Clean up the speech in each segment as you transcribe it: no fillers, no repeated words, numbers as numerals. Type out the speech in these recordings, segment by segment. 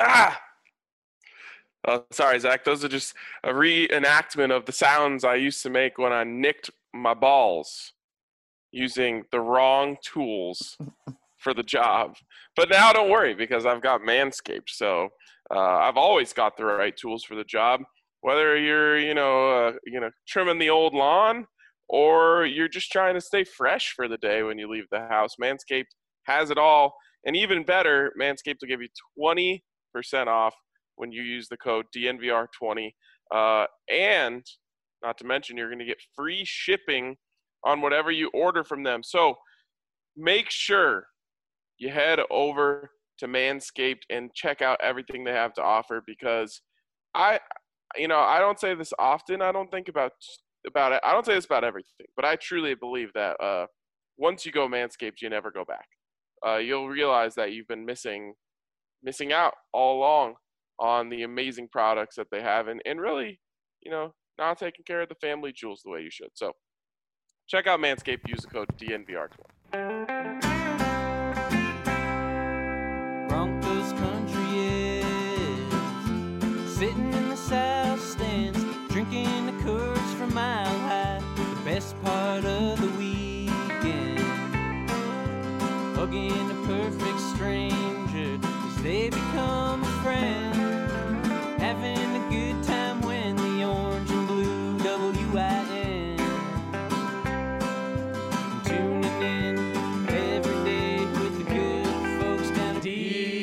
Ah! Oh, sorry, Zach. Those are just a reenactment of the sounds I used to make when I nicked my balls using the wrong tools for the job. But now don't worry because I've got Manscaped. So I've always got the right tools for the job. Whether you're, trimming the old lawn or you're just trying to stay fresh for the day when you leave the house, Manscaped has it all. And even better, Manscaped will give you 20% off when you use the code DNVR20. And not to mention, you're going to get free shipping on whatever you order from them. So make sure you head over to Manscaped and check out everything they have to offer because I don't say this often. I don't think about it. I don't say this about everything, but I truly believe that once you go Manscaped, you never go back. You'll realize that you've been missing out all along on the amazing products that they have and really, not taking care of the family jewels the way you should. So check out Manscaped. Use the code DNVR20. Broncos country is sitting in the south stands, drinking the Coors from Mile High. The best part of the weekend, hugging a perfect stranger as they become a friend, having a good time when the orange and blue WIN, tuning in every day with the good folks down at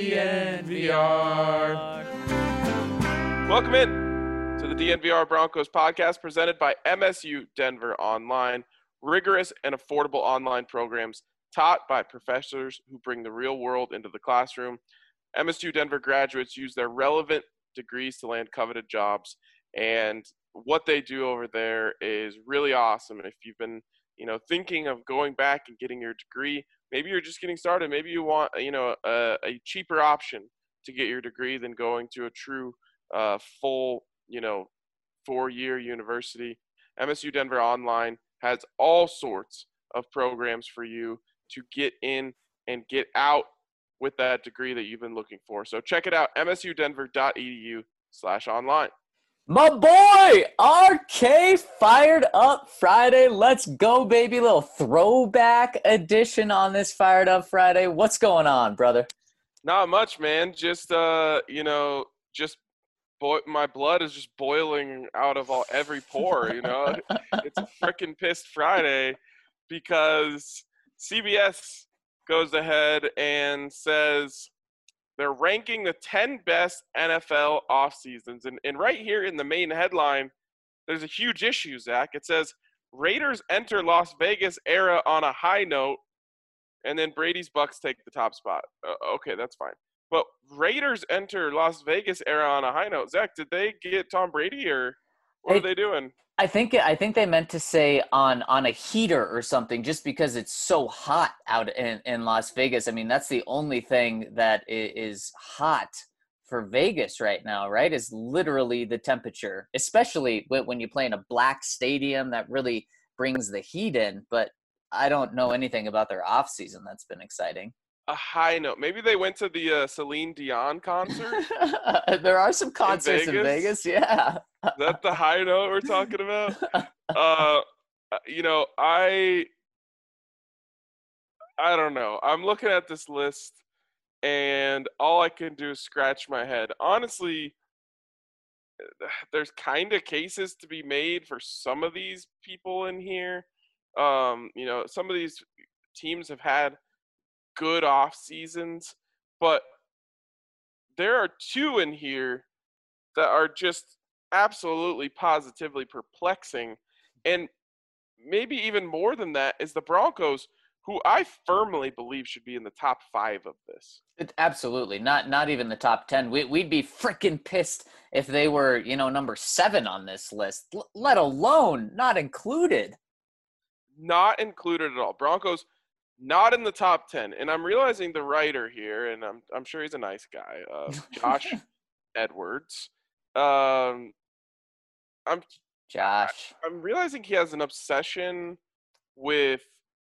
DNVR. Welcome in to the DNVR Broncos podcast presented by MSU Denver Online. Rigorous and affordable online programs taught by professors who bring the real world into the classroom. MSU Denver graduates use their relevant degrees to land coveted jobs, and what they do over there is really awesome. If you've been, thinking of going back and getting your degree, maybe you're just getting started, maybe you want, a cheaper option to get your degree than going to a true full, 4-year university. MSU Denver Online has all sorts of programs for you to get in and get out with that degree that you've been looking for. So check it out, msudenver.edu/online. My boy, RK fired up Friday. Let's go, baby. Little throwback edition on this Fired Up Friday. What's going on, brother? Not much, man. Just, my blood is just boiling out of every pore, It's a freaking pissed Friday because CBS goes ahead and says they're ranking the 10 best NFL off seasons. And right here in the main headline, there's a huge issue, Zach. It says, Raiders enter Las Vegas era on a high note, and then Brady's Bucks take the top spot. Okay, that's fine. But Raiders enter Las Vegas era on a high note. Zach, did they get Tom Brady or what are they doing? I think they meant to say on a heater or something, just because it's so hot out in Las Vegas. I mean, that's the only thing that is hot for Vegas right now, right? Is literally the temperature, especially when you play in a black stadium that really brings the heat in. But I don't know anything about their off season. That's been exciting. A high note. Maybe they went to the Celine Dion concert. There are some concerts in Vegas. Yeah. Is that the high note we're talking about? I don't know. I'm looking at this list, and all I can do is scratch my head. Honestly, there's kind of cases to be made for some of these people in here. Some of these teams have had good off seasons, but there are two in here that are just absolutely positively perplexing. And maybe even more than that is the Broncos, who I firmly believe should be in the top 5 of this. Absolutely. Not even the top 10. We'd be freaking pissed if they were, number 7 on this list, let alone not included. Not included at all. Broncos not in the top 10. And I'm realizing the writer here, and I'm sure he's a nice guy, Josh Edwards. I'm realizing he has an obsession with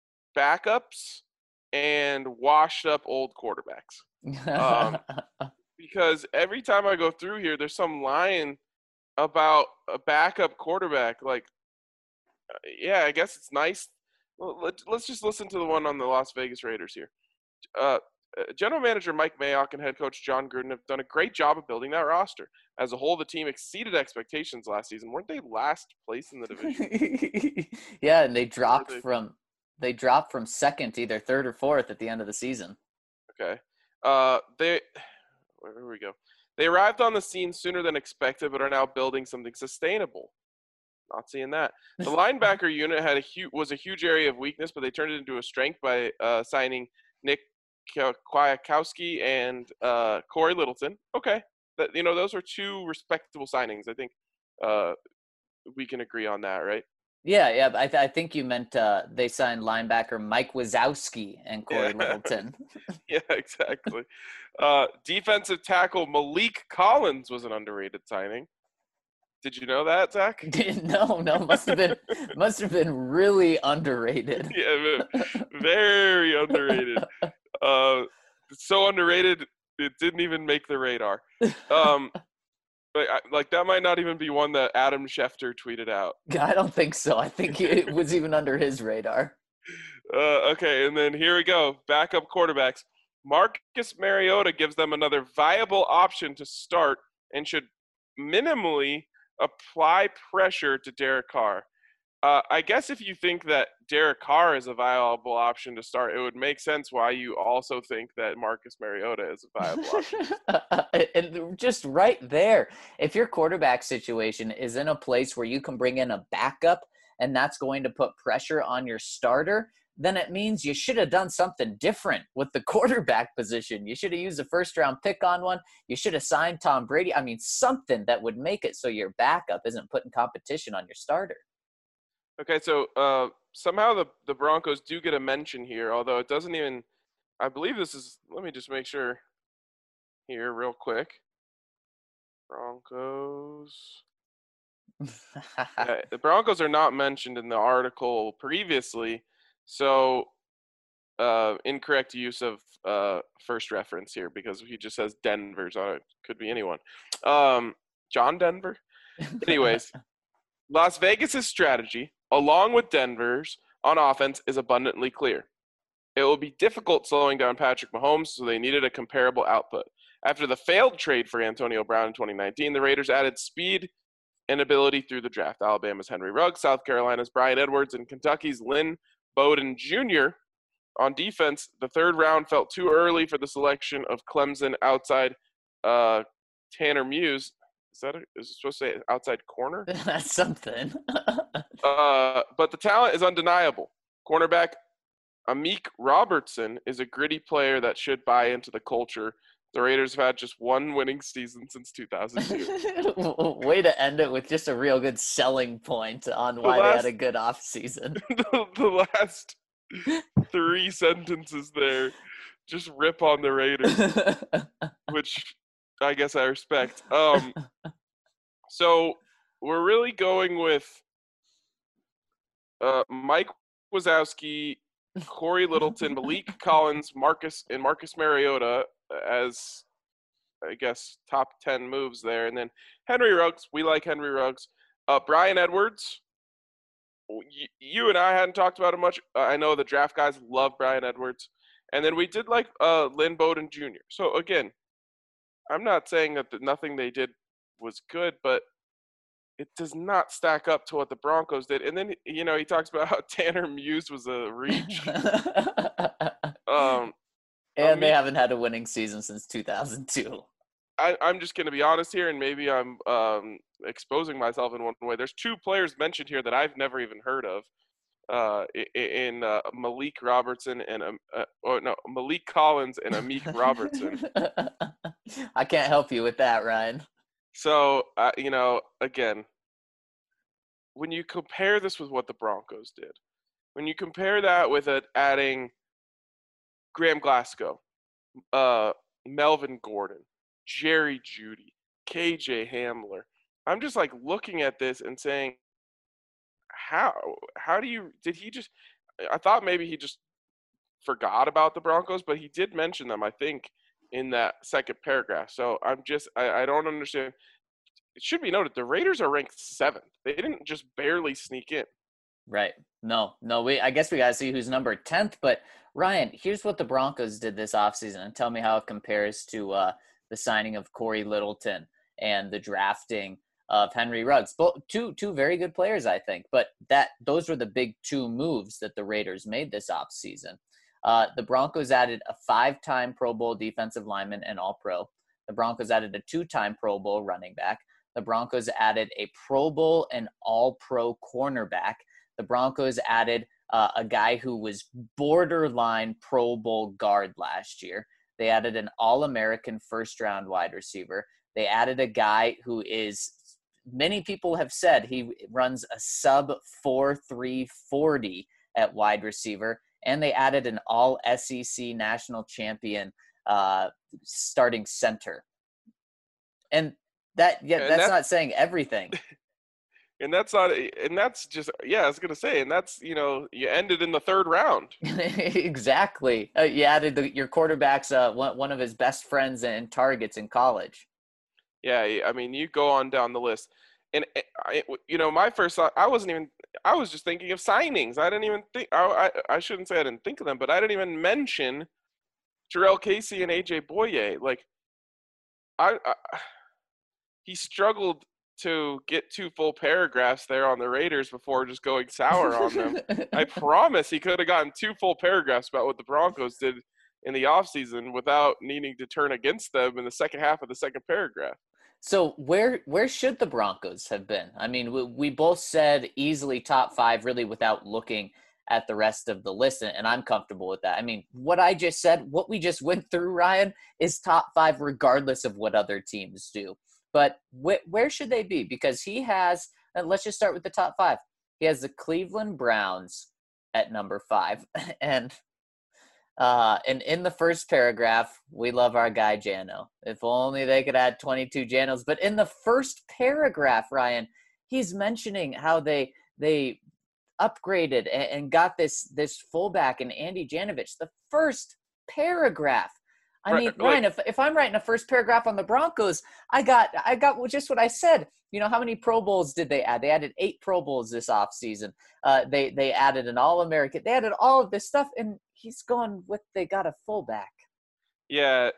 backups and washed up old quarterbacks. because every time I go through here, there's some line about a backup quarterback. Like, yeah, I guess it's nice. Well, let's just listen to the one on the Las Vegas Raiders here. Uh, General Manager Mike Mayock and head coach John Gruden have done a great job of building that roster. As a whole, the team exceeded expectations last season. Weren't they last place in the division? Yeah, and they dropped from second to either third or fourth at the end of the season. Okay. Where we go? They arrived on the scene sooner than expected, but are now building something sustainable. Not seeing that. The linebacker unit was a huge area of weakness, but they turned it into a strength by signing Nick Kwiatkowski and Corey Littleton. Okay, those are two respectable signings. I think we can agree on that, right? Yeah. I think you meant they signed linebacker Mike Wazowski and Corey Littleton. Yeah, exactly. Defensive tackle Malik Collins was an underrated signing. Did you know that, Zach? No, must have been really underrated. Yeah, very underrated. So underrated it didn't even make the radar. Like that might not even be one that Adam Schefter tweeted out. I don't think so. I think it was even under his radar. Okay, and then here we go. Backup quarterbacks. Marcus Mariota gives them another viable option to start and should minimally apply pressure to Derek Carr. I guess if you think that Derek Carr is a viable option to start, it would make sense why you also think that Marcus Mariota is a viable option. And just right there, if your quarterback situation is in a place where you can bring in a backup and that's going to put pressure on your starter, then it means you should have done something different with the quarterback position. You should have used a first-round pick on one. You should have signed Tom Brady. I mean, something that would make it so your backup isn't putting competition on your starter. Okay, so somehow the Broncos do get a mention here, although it doesn't even – I believe this is – let me just make sure here real quick. Broncos. The Broncos are not mentioned in the article previously, so incorrect use of first reference here because he just says Denver's on it. Could be anyone. John Denver? Anyways, Las Vegas's strategy, along with Denver's, on offense is abundantly clear. It will be difficult slowing down Patrick Mahomes, so they needed a comparable output. After the failed trade for Antonio Brown in 2019, the Raiders added speed and ability through the draft. Alabama's Henry Ruggs, South Carolina's Bryan Edwards, and Kentucky's Lynn Bowden Jr. On defense, the third round felt too early for the selection of Clemson outside Tanner Muse. Is it supposed to say outside corner? That's something. But the talent is undeniable. Cornerback Amik Robertson is a gritty player that should buy into the culture. The Raiders have had just one winning season since 2002. Way to end it with just a real good selling point on why they had a good offseason. The last 3 sentences there just rip on the Raiders, which I guess I respect. So we're really going with Mike Wazowski, Corey Littleton, Malik Collins, Marcus Mariota as, I guess, top 10 moves there. And then Henry Ruggs. We like Henry Ruggs. Bryan Edwards. You and I hadn't talked about it much. I know the draft guys love Bryan Edwards. And then we did like Lynn Bowden Jr. So, again, I'm not saying that nothing they did was good, but it does not stack up to what the Broncos did. And then, he talks about how Tanner Muse was a reach. And they haven't had a winning season since 2002. I'm just going to be honest here, and maybe I'm exposing myself in one way. There's 2 players mentioned here that I've never even heard of in Malik Robertson and Malik Collins and Amik Robertson. I can't help you with that, Ryan. So, again, when you compare this with what the Broncos did, when you compare that with adding Graham Glasgow, Melvin Gordon, Jerry Jeudy, KJ Hamler, I'm just like looking at this and saying, how did he just, I thought maybe he just forgot about the Broncos, but he did mention them, I think, in that second paragraph. So I don't understand. It should be noted the Raiders are ranked 7th. They didn't just barely sneak in. Right. No, I guess we got to see who's number 10th. But Ryan, here's what the Broncos did this offseason, and tell me how it compares to the signing of Corey Littleton and the drafting of Henry Ruggs. Both two very good players, I think. But those were the big two moves that the Raiders made this offseason. The Broncos added a 5-time Pro Bowl defensive lineman and All-Pro. The Broncos added a 2-time Pro Bowl running back. The Broncos added a Pro Bowl and All-Pro cornerback. The Broncos added a guy who was borderline Pro Bowl guard last year. They added an All-American first-round wide receiver. They added a guy who is, many people have said he runs a sub 4.3 40 at wide receiver. And they added an All-SEC national champion starting center. And that's not saying everything. And that's not, and that's just, yeah, I was going to say, and that's, you ended in the 3rd round. Exactly. You added your quarterback's one of his best friends and targets in college. Yeah, I mean, you go on down the list. And, my first thought, I was just thinking of signings. I didn't even think, I shouldn't say I didn't think of them, but I didn't even mention Jurrell Casey and AJ Boye. Like, he struggled to get 2 full paragraphs there on the Raiders before just going sour on them. I promise he could have gotten 2 full paragraphs about what the Broncos did in the offseason without needing to turn against them in the second half of the second paragraph. So where should the Broncos have been? I mean, we both said easily top 5 really without looking at the rest of the list, and I'm comfortable with that. I mean, what I just said, what we just went through, Ryan, is top 5 regardless of what other teams do. But where should they be? Because he has, let's just start with the top 5. He has the Cleveland Browns at number 5. And in the first paragraph, we love our guy Jano. If only they could add 22 Janos. But in the first paragraph, Ryan, he's mentioning how they upgraded and got this fullback in Andy Janovich. The first paragraph. I mean, Ryan, if I'm writing a first paragraph on the Broncos, I got just what I said. How many Pro Bowls did they add? They added 8 Pro Bowls this offseason. They added an All-American. They added all of this stuff, and he's going with they got a fullback. Yeah,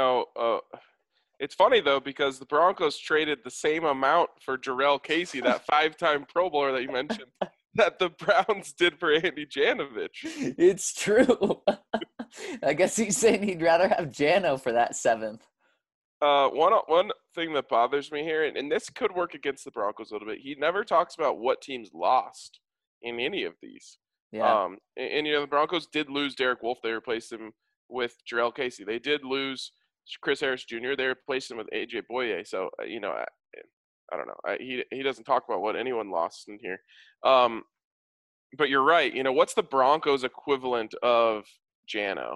it's funny, though, because the Broncos traded the same amount for Jurrell Casey, that 5-time Pro Bowler that you mentioned, that the Browns did for Andy Janovich. It's true. I guess he's saying he'd rather have Jano for that 7th. One thing that bothers me here, and this could work against the Broncos a little bit, he never talks about what teams lost in any of these. Yeah. And the Broncos did lose Derek Wolfe. They replaced him with Jurrell Casey. They did lose Chris Harris Jr. They replaced him with AJ Boye. So, I don't know. He doesn't talk about what anyone lost in here. But you're right. What's the Broncos equivalent of Jano?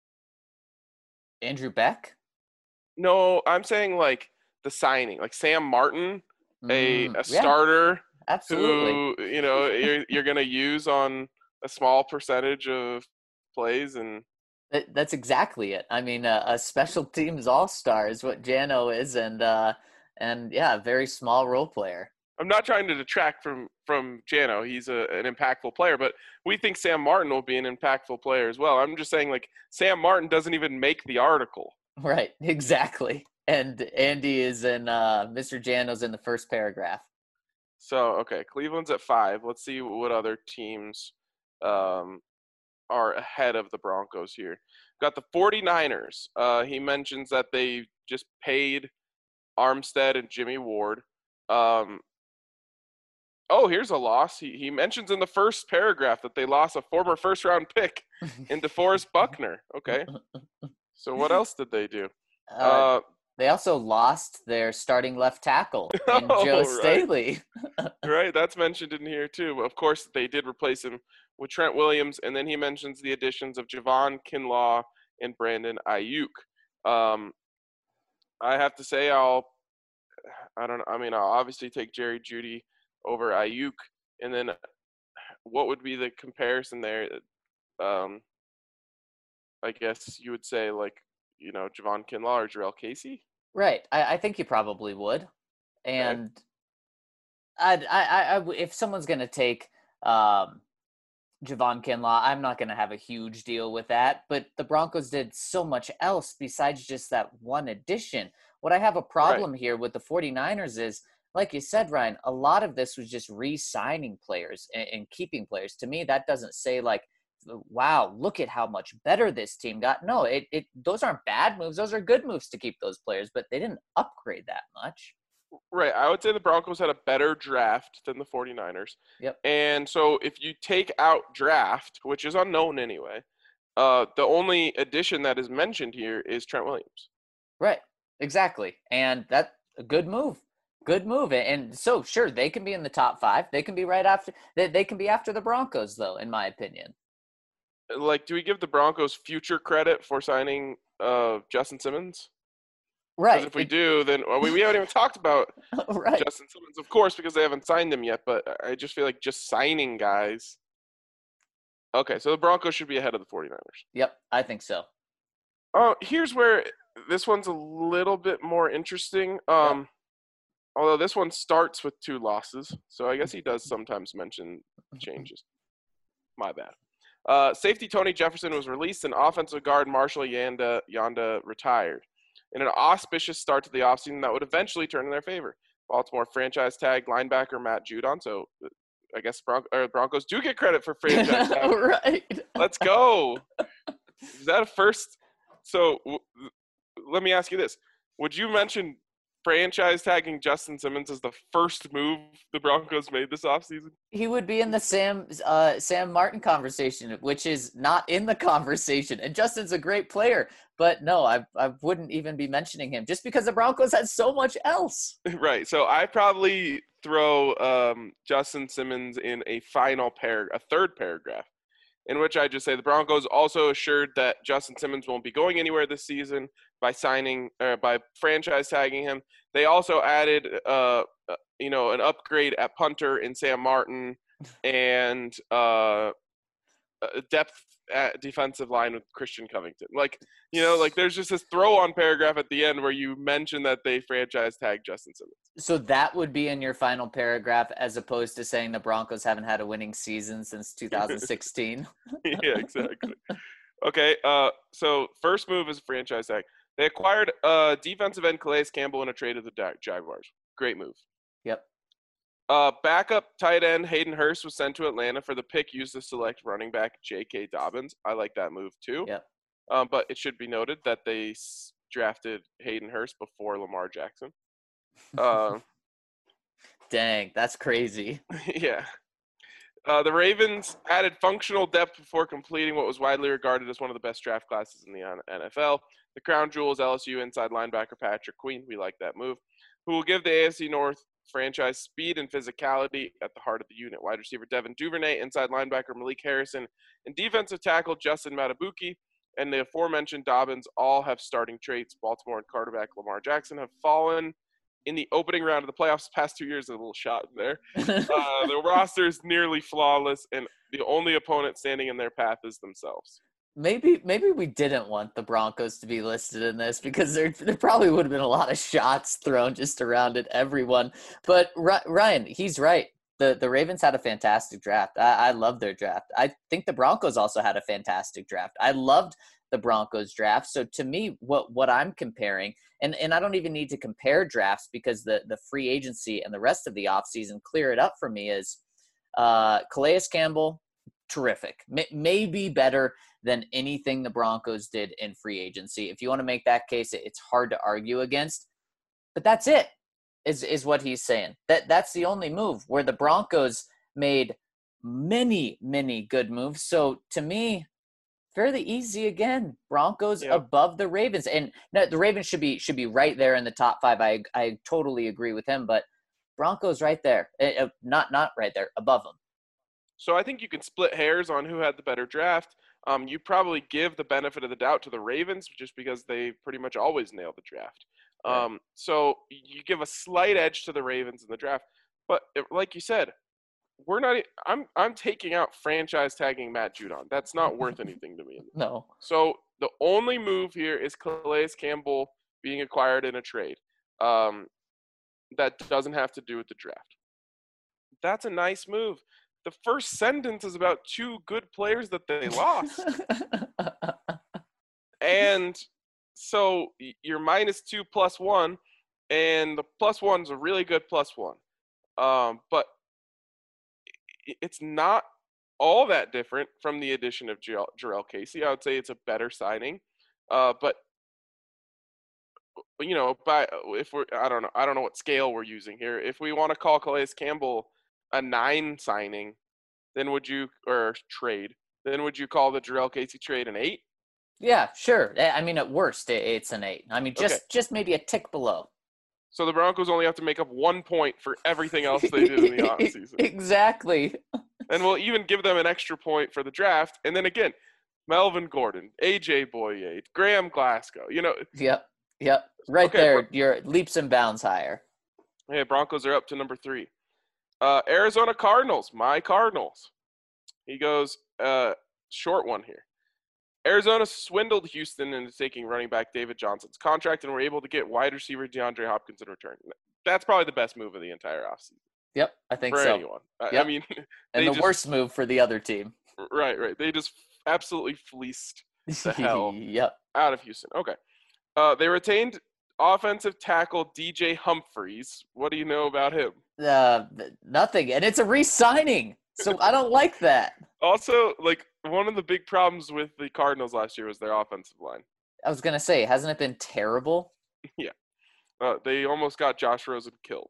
Andrew Beck? No, I'm saying like the signing, like Sam Martin, a starter. Absolutely. Who, you're going to use on a small percentage of plays. And that's exactly it. I mean, a special teams all-star is what Jano is. And yeah, a very small role player. I'm not trying to detract from Jano. He's an impactful player, but we think Sam Martin will be an impactful player as well. I'm just saying, like, Sam Martin doesn't even make the article. Right, exactly. And Andy is in Mr. Jano's in the first paragraph. So, okay, Cleveland's at 5. Let's see what other teams are ahead of the Broncos here. Got the 49ers. He mentions that they just paid Armstead and Jimmy Ward. Here's a loss. He mentions in the first paragraph that they lost a former first-round pick in DeForest Buckner. Okay. So what else did they do? They also lost their starting left tackle in Joe Staley. Right, that's mentioned in here too. Of course, they did replace him with Trent Williams, and then he mentions the additions of Javon Kinlaw and Brandon Ayuk. I have to say, I'll obviously take Jerry Jeudy over Ayuk, and then what would be the comparison there? I guess you would say, like, Javon Kinlaw or Jarrell Casey. Right. I think you probably would. And if someone's going to take Javon Kinlaw, I'm not going to have a huge deal with that. But the Broncos did so much else besides just that one addition. What I have a problem here with the 49ers is, like you said, Ryan, a lot of this was just re-signing players and keeping players. To me, that doesn't say like, wow, look at how much better this team got. No, those aren't bad moves. Those are good moves to keep those players, but they didn't upgrade that much. Right. I would say the Broncos had a better draft than the 49ers. Yep. And so if you take out draft, which is unknown anyway, the only addition that is mentioned here is Trent Williams. Right. Exactly. And that's a good move. Good move. And so, sure, they can be in the top 5. They can be right after – they can be after the Broncos, though, in my opinion. Like, do we give the Broncos future credit for signing Justin Simmons? Right. Because if we do, then we haven't even talked about right. Justin Simmons, of course, because they haven't signed him yet. But I just feel like just signing guys. Okay, so the Broncos should be ahead of the 49ers. Yep, I think so. Here's where this one's a little bit more interesting. Yep. Although this one starts with 2 losses, so I guess he does sometimes mention changes. My bad. Safety Tony Jefferson was released, and offensive guard Marshall Yanda retired. In an auspicious start to the offseason that would eventually turn in their favor. Baltimore franchise tag linebacker Matt Judon. So I guess Broncos do get credit for franchise tag. Right. Let's go. Is that a first? So let me ask you this. Would you mention franchise tagging Justin Simmons as the first move the Broncos made this offseason? He would be in the Sam Martin conversation, which is not in the conversation. And Justin's a great player, but no, I wouldn't even be mentioning him just because the Broncos had so much else. Right. So I probably throw Justin Simmons in a third paragraph, in which I just say the Broncos also assured that Justin Simmons won't be going anywhere this season by franchise tagging him. They also added an upgrade at punter in Sam Martin and depth at defensive line with Christian Covington. There's just this throw-on paragraph at the end where you mention that they franchise tagged Justin Simmons. So that would be in your final paragraph as opposed to saying the Broncos haven't had a winning season since 2016. Yeah, exactly. Okay, so first move is a franchise tag. They acquired defensive end Calais Campbell in a trade of the Jaguars. Great move. Yep. Backup tight end Hayden Hurst was sent to Atlanta for the pick used to select running back J.K. Dobbins. I like that move too. Yep. But it should be noted that they drafted Hayden Hurst before Lamar Jackson. Dang, that's crazy. Yeah. The Ravens added functional depth before completing what was widely regarded as one of the best draft classes in the NFL. The crown jewel is LSU inside linebacker Patrick Queen. We like that move. Who will give the AFC North franchise speed and physicality at the heart of the unit. Wide receiver Devin Duvernay, inside linebacker Malik Harrison, and defensive tackle Justin Matabuki, and the aforementioned Dobbins all have starting traits. Baltimore and quarterback Lamar Jackson have fallen in the opening round of the playoffs the past 2 years. A little shot in there. The roster is nearly flawless, and the only opponent standing in their path is themselves. Maybe we didn't want the Broncos to be listed in this because there probably would have been a lot of shots thrown just around at everyone. But Ryan, he's right. The Ravens had a fantastic draft. I love their draft. I think the Broncos also had a fantastic draft. I loved the Broncos draft. So to me, what I'm comparing, and I don't even need to compare drafts because the free agency and the rest of the offseason clear it up for me, is Calais Campbell, terrific. Maybe better than anything the Broncos did in free agency. If you want to make that case, it's hard to argue against. But that's it, is what he's saying. That's the only move where the Broncos made many, many good moves. So to me, fairly easy again. Broncos above the Ravens. And no, the Ravens should be right there in the top 5. I totally agree with him, but Broncos right there. Not right there, above them. So I think you can split hairs on who had the better draft. You probably give the benefit of the doubt to the Ravens just because they pretty much always nail the draft. So you give a slight edge to the Ravens in the draft. But like you said, we're not. I'm taking out franchise tagging Matt Judon. That's not worth anything to me. No. So the only move here is Calais Campbell being acquired in a trade. That doesn't have to do with the draft. That's a nice move. The first sentence is about two good players that they lost. And so you're -2 +1, and the +1's a really good +1. But it's not all that different from the addition of Jarrell Casey. I would say it's a better signing. But I don't know what scale we're using here. If we want to call Calais Campbell a 9 signing, then would you call the Jarrell Casey trade an 8? Yeah, sure. I mean, at worst, it's an 8. I mean, just maybe a tick below. So the Broncos only have to make up 1 point for everything else they did in the offseason. Exactly. And we'll even give them an extra point for the draft. And then again, Melvin Gordon, AJ Boye, Graham Glasgow, Yep. Right okay, there, you're leaps and bounds higher. Hey, Broncos are up to number 3. Arizona Cardinals, my Cardinals. He goes, short one here. Arizona swindled Houston into taking running back David Johnson's contract and were able to get wide receiver DeAndre Hopkins in return. That's probably the best move of the entire offseason. Yep, I think for so. Anyone. Yep. I mean, and the worst move for the other team. Right. They just absolutely fleeced the hell yep. out of Houston. Okay. They retained offensive tackle DJ Humphries. What do you know about him? Nothing, and it's a re-signing, so I don't like that. Also, one of the big problems with the Cardinals last year was their offensive line. I was gonna say, hasn't it been terrible? Yeah. They almost got Josh Rosen killed.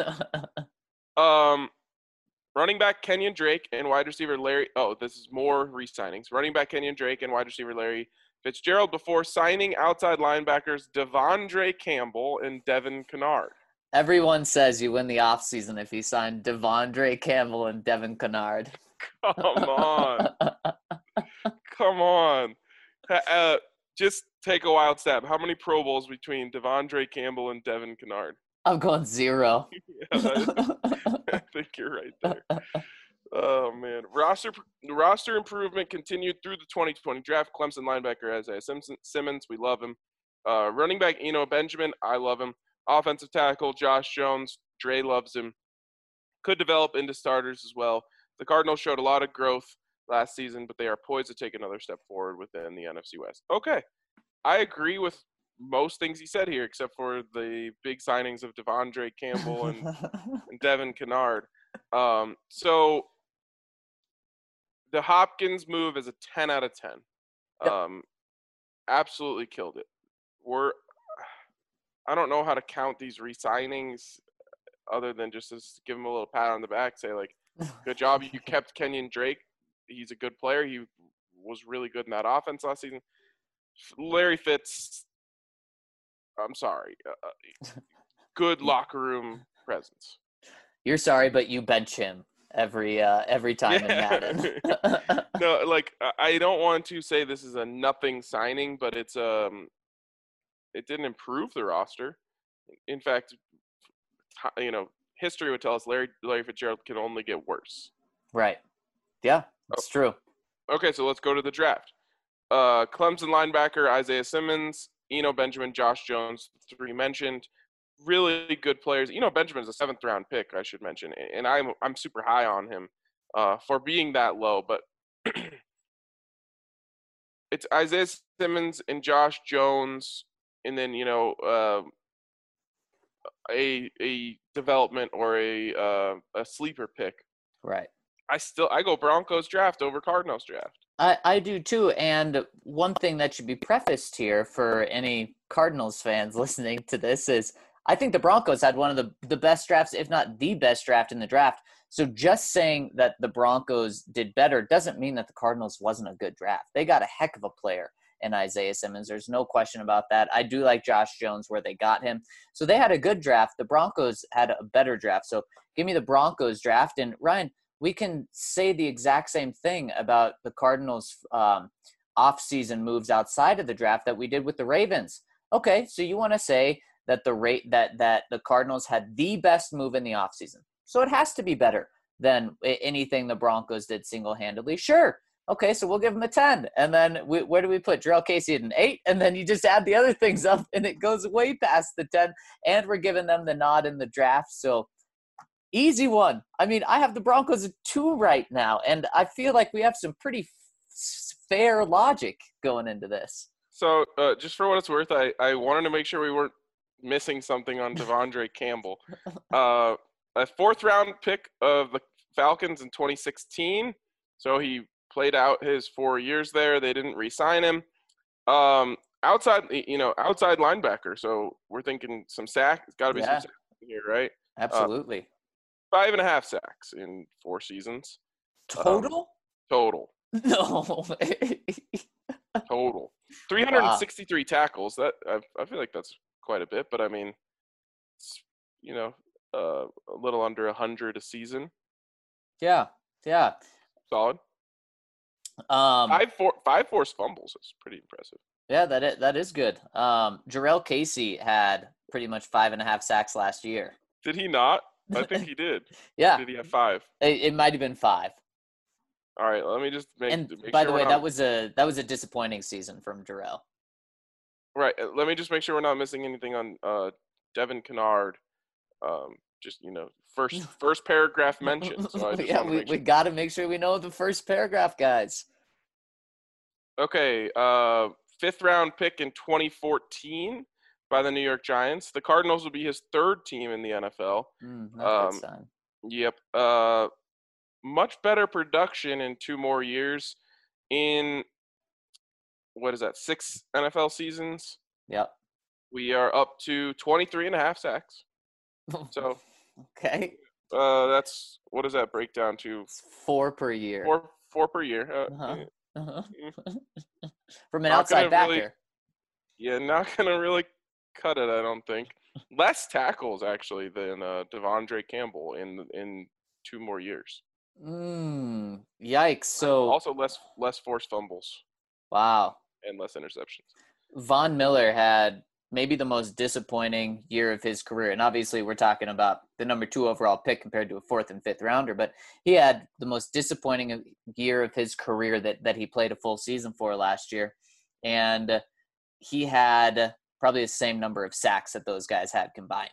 Running back Kenyon Drake and wide receiver Larry. Oh, this is more re-signings. Running back Kenyon Drake and wide receiver Larry Fitzgerald before signing outside linebackers Devondre Campbell and Devin Kennard. Everyone says you win the offseason if you sign Devondre Campbell and Devin Kennard. Come on. Just take a wild stab. How many Pro Bowls between Devondre Campbell and Devin Kennard? I'm going 0. I think you're right there. Oh, man. Roster improvement continued through the 2020 draft. Clemson linebacker Isaiah Simmons, we love him. Running back Eno Benjamin, I love him. Offensive tackle Josh Jones, Dre loves him. Could develop into starters as well. The Cardinals showed a lot of growth last season, but they are poised to take another step forward within the NFC West. Okay. I agree with most things he said here, except for the big signings of Devondre Campbell and Devin Kennard. So the Hopkins move is a 10 out of 10. Yep. Absolutely killed it. I don't know how to count these re-signings other than just to give him a little pat on the back, say, good job. You kept Kenyon Drake. He's a good player. He was really good in that offense last season. Larry Fitz, I'm sorry. Good locker room presence. You're sorry, but you bench him every time in Madden. No, I don't want to say this is a nothing signing, but it didn't improve the roster. In fact, history would tell us Larry Fitzgerald can only get worse. Right. Yeah, that's true. Okay, so let's go to the draft. Clemson linebacker Isaiah Simmons, Eno Benjamin, Josh Jones, 3 mentioned. Really good players. Eno Benjamin is a 7th round pick, I should mention, and I'm super high on him for being that low. But it's Isaiah Simmons and Josh Jones, and then a development or a sleeper pick. Right. I go Broncos draft over Cardinals draft. I do too. And one thing that should be prefaced here for any Cardinals fans listening to this is I think the Broncos had one of the best drafts, if not the best draft in the draft. So just saying that the Broncos did better doesn't mean that the Cardinals wasn't a good draft. They got a heck of a player in Isaiah Simmons. There's no question about that. I do like Josh Jones where they got him. So they had a good draft. The Broncos had a better draft. So give me the Broncos draft. And Ryan, we can say the exact same thing about the Cardinals off-season moves outside of the draft that we did with the Ravens. Okay, so you want to say that the Cardinals had the best move in the offseason. So it has to be better than anything the Broncos did single-handedly. Sure. Okay, so we'll give him a 10. And then where do we put Jarrell Casey at an 8? And then you just add the other things up, and it goes way past the 10. And we're giving them the nod in the draft. So easy one. I mean, I have the Broncos at 2 right now, and I feel like we have some pretty fair logic going into this. So just for what it's worth, I wanted to make sure we weren't missing something on Devondre Campbell. A 4th-round pick of the Falcons in 2016. So he played out his 4 years there. They didn't re-sign him. Outside linebacker. So we're thinking some sack. It's got to be some sacks here, right? Absolutely. 5.5 sacks in 4 seasons. Total? Total. No. Total. 363 tackles. That I feel like that's quite a bit, but I mean, it's, a little under 100 a season. Yeah. Solid. 5 forced fumbles is pretty impressive. Yeah, that is good. Jarrell Casey had pretty much 5.5 sacks last year. Did he not? I think he did. Yeah. Or did he have 5? It might have been 5. All right, let me just make. And make by sure the way, not, that was a disappointing season from Jarrell. Right. Let me just make sure we're not missing anything on Devin Kennard. Just first paragraph mention. So I just we got to make sure we know the first paragraph, guys. Okay. 5th-round pick in 2014 by the New York Giants. The Cardinals will be his 3rd team in the NFL. Not a good sign. Yep. Much better production in 2 more years. In what is that? 6 NFL seasons. Yep. We are up to 23.5 sacks. So. Okay. That's what does that break down to? It's 4 per year. 4 per year. From an outside backer. Not gonna really cut it, I don't think. Less tackles actually than Devondre Campbell in 2 more years. Yikes! So also less forced fumbles. Wow. And less interceptions. Von Miller had maybe the most disappointing year of his career. And obviously we're talking about the number 2 overall pick compared to a 4th and 5th rounder, but he had the most disappointing year of his career that he played a full season for last year. And he had probably the same number of sacks that those guys had combined.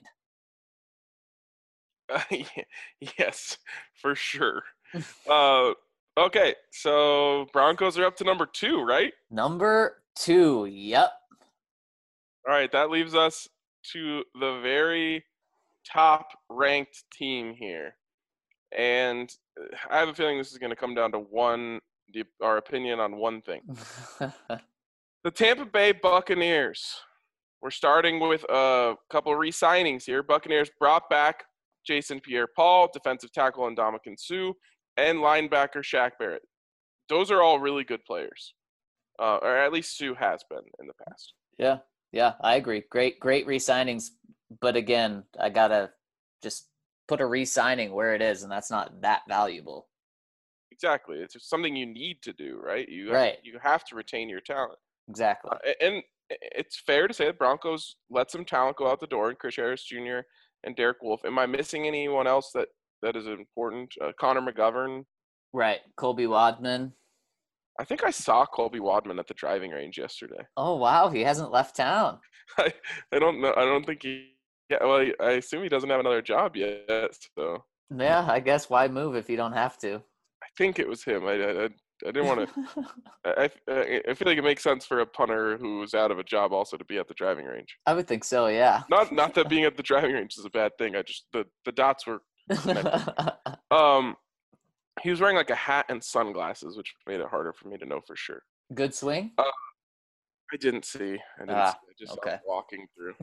Yes, for sure. Okay, so Broncos are up to number 2, right? Number 2, yep. All right, that leaves us to the very top-ranked team here. And I have a feeling this is going to come down to our opinion on one thing. The Tampa Bay Buccaneers. We're starting with a couple of re-signings here. Buccaneers brought back Jason Pierre-Paul, defensive tackle Ndamukong Suh, and linebacker Shaq Barrett. Those are all really good players, or at least Suh has been in the past. Yeah, I agree. Great re-signings. But again, I got to just put a re-signing where it is, and that's not that valuable. Exactly. It's just something you need to do, right? You have to retain your talent. Exactly. And it's fair to say that Broncos let some talent go out the door, and Chris Harris Jr. and Derek Wolfe. Am I missing anyone else that is important? Connor McGovern? Right. Colby Wadman. I think I saw Colby Wadman at the driving range yesterday. Oh, wow. He hasn't left town. I don't know. I don't think he – yeah, well, I assume he doesn't have another job yet. So yeah, I guess why move if you don't have to? I think it was him. I didn't want to – I feel like it makes sense for a punter who's out of a job also to be at the driving range. I would think so, yeah. Not that being at the driving range is a bad thing. I just – the dots were connected. He was wearing like a hat and sunglasses, which made it harder for me to know for sure. Good swing? I didn't see. I just okay. saw walking through.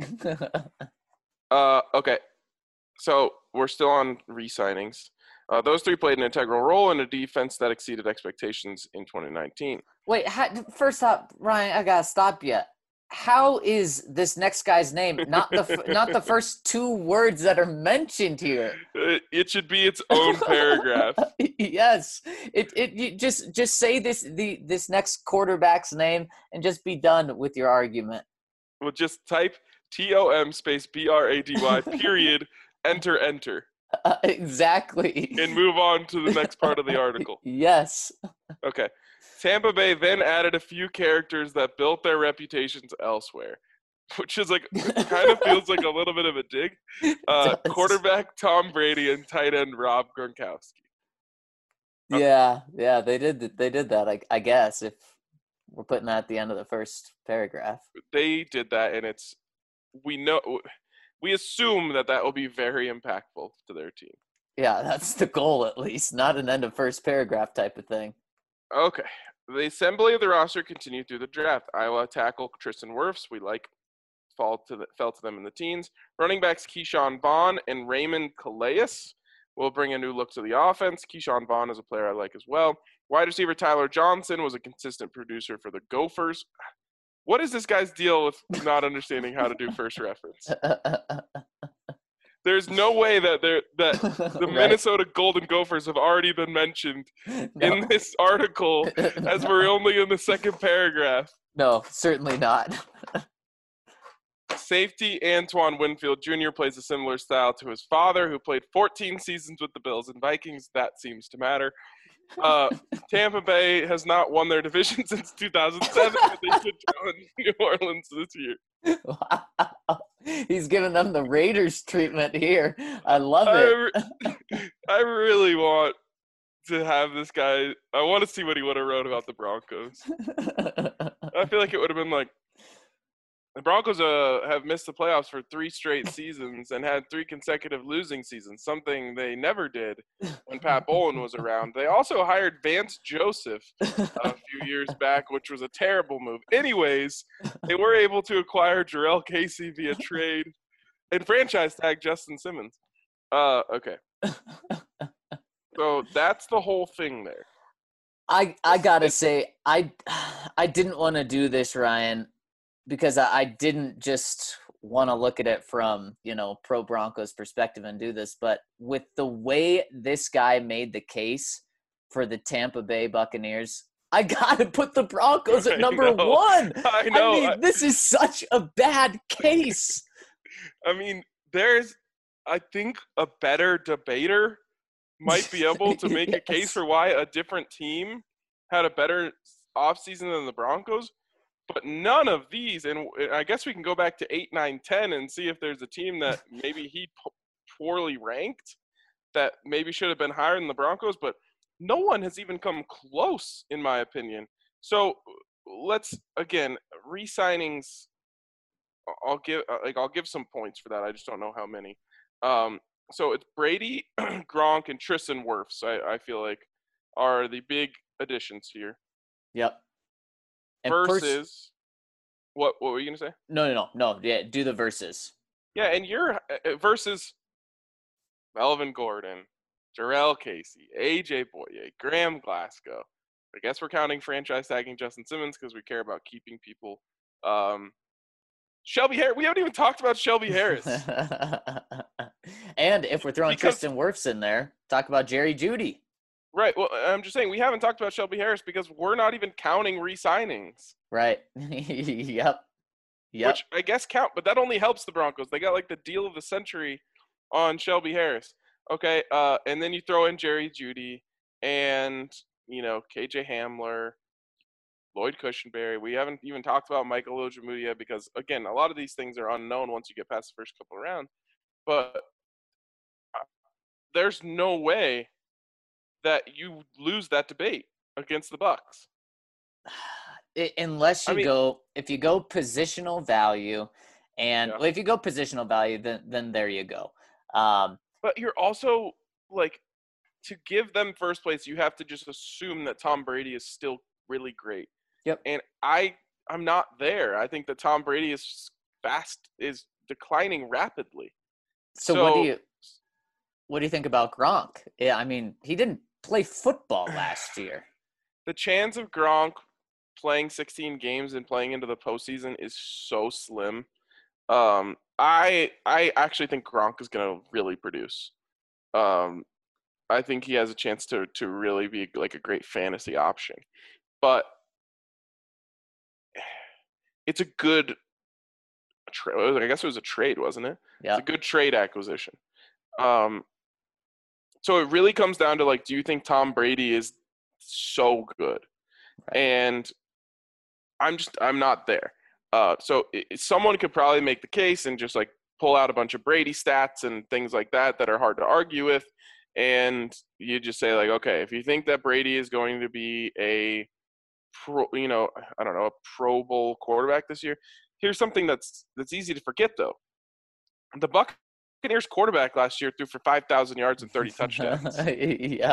Okay. So we're still on re-signings. Those 3 played an integral role in a defense that exceeded expectations in 2019. Wait, first up, Ryan, I gotta stop you. How is this next guy's name not the first 2 words that are mentioned here? It should be its own paragraph. Yes, you just say this next quarterback's name and just be done with your argument. Well, just type TOM space BRADY period enter. Exactly. and move on to the next part of the article. Yes. Okay. Tampa Bay then added a few characters that built their reputations elsewhere, which is like, kind of feels like a little bit of a dig. Does. Quarterback Tom Brady and tight end Rob Gronkowski. Yeah, they did that, I guess, if we're putting that at the end of the first paragraph. They did that, and we assume that will be very impactful to their team. Yeah, that's the goal, at least, not an end of first paragraph type of thing. Okay. The assembly of the roster continued through the draft. Iowa tackle Tristan Wirfs, fell to them in the teens. Running backs Keyshawn Vaughn and Raymond Calais will bring a new look to the offense. Keyshawn Vaughn is a player I like as well. Wide receiver Tyler Johnson was a consistent producer for the Gophers. What is this guy's deal with not understanding how to do first reference? There's no way that the Right. Minnesota Golden Gophers have already been mentioned in this article, as we're only in the second paragraph. No, certainly not. Safety Antoine Winfield Jr. plays a similar style to his father, who played 14 seasons with the Bills and Vikings. That seems to matter. Tampa Bay has not won their division since 2007, but they should challenge New Orleans this year. Wow. He's giving them the Raiders treatment here. I love it. I really want to have this guy. I want to see what he would have wrote about the Broncos. I feel like it would have been like, the Broncos have missed the playoffs for 3 straight seasons and had 3 consecutive losing seasons, something they never did when Pat Bowlen was around. They also hired Vance Joseph a few years back, which was a terrible move. Anyways, they were able to acquire Jarrell Casey via trade and franchise tag Justin Simmons. Okay. So that's the whole thing there. I gotta say, I didn't want to do this, Ryan, because I didn't just want to look at it from, pro Broncos perspective and do this, but with the way this guy made the case for the Tampa Bay Buccaneers, I got to put the Broncos at number 1. I know. I mean, this is such a bad case. I mean, there's, I think, a better debater might be able to make a case for why a different team had a better offseason than the Broncos. But none of these, and I guess we can go back to 8, 9, 10 and see if there's a team that maybe he poorly ranked that maybe should have been higher than the Broncos, but no one has even come close, in my opinion. So let's, again, re-signings, I'll give some points for that. I just don't know how many. So it's Brady, Gronk, and Tristan Wirfs, I feel like, are the big additions here. Yep. And versus what were you gonna say? No. Yeah, do the verses. Yeah, and you're versus Melvin Gordon, Jarrell Casey, AJ Boye, Graham Glasgow. I guess we're counting franchise tagging Justin Simmons because we care about keeping people. Shelby Harris. We haven't even talked about Shelby Harris. And if we're throwing Tristan Wirfs in there, talk about Jerry Jeudy. Right. Well, I'm just saying we haven't talked about Shelby Harris because we're not even counting re-signings. Right. Yep. Which I guess count, but that only helps the Broncos. They got like the deal of the century on Shelby Harris. Okay. And then you throw in Jerry Jeudy and, KJ Hamler, Lloyd Cushenberry. We haven't even talked about Michael Ojemudia because, again, a lot of these things are unknown once you get past the first couple of rounds. But there's no way that you lose that debate against the Bucs. Unless if you go positional value, and if you go positional value, then there you go. But you're also to give them first place, you have to just assume that Tom Brady is still really great. Yep. And I'm not there. I think that Tom Brady is declining rapidly. So what do you think about Gronk? Yeah, I mean, he didn't play football last year. The chance of Gronk playing 16 games and playing into the postseason is so slim. I actually think Gronk is going to really produce. I think he has a chance to really be like a great fantasy option. But it's a good I guess it was a trade, wasn't it? Yeah. It's a good trade acquisition. So it really comes down to, like, do you think Tom Brady is so good? Right. And I'm not there. So someone could probably make the case and just like pull out a bunch of Brady stats and things like that are hard to argue with, and you just say like, okay, if you think that Brady is going to be a I don't know, a Pro Bowl quarterback this year, here's something that's easy to forget though. The Buccaneers quarterback last year threw for 5,000 yards and 30 touchdowns. Yeah.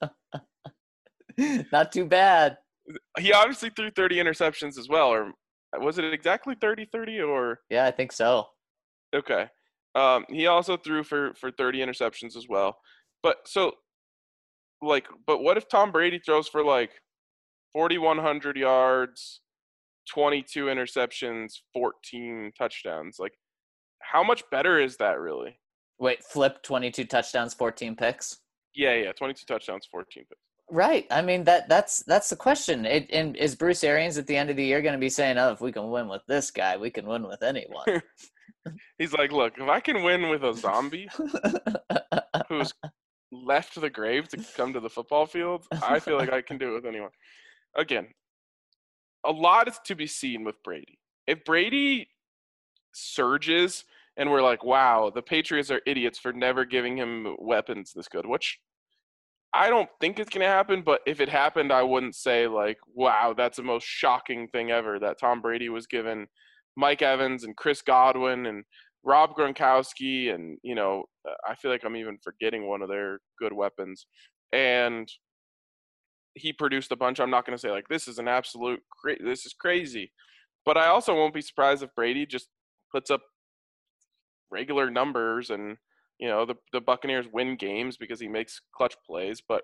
Not too bad. He obviously threw 30 interceptions as well, or was it exactly 30 or? Yeah, I think so. Okay. He also threw for 30 interceptions as well. But so, like, but what if Tom Brady throws for like 4,100 yards, 22 interceptions, 14 touchdowns? Like, how much better is that really? Wait, flip 22 touchdowns, 14 picks. Yeah, 22 touchdowns, 14 picks. Right. I mean that's the question. And is Bruce Arians at the end of the year going to be saying, "Oh, if we can win with this guy, we can win with anyone." He's like, look, if I can win with a zombie who's left the grave to come to the football field, I feel like I can do it with anyone. Again, a lot is to be seen with Brady. If Brady surges and we're like, wow, the Patriots are idiots for never giving him weapons this good, which I don't think it's going to happen, but if it happened, I wouldn't say like, wow, that's the most shocking thing ever that Tom Brady was given Mike Evans and Chris Godwin and Rob Gronkowski, and I feel like I'm even forgetting one of their good weapons. And he produced a bunch. I'm not going to say like this is an absolute this is crazy, but I also won't be surprised if Brady just puts up regular numbers and the Buccaneers win games because he makes clutch plays. But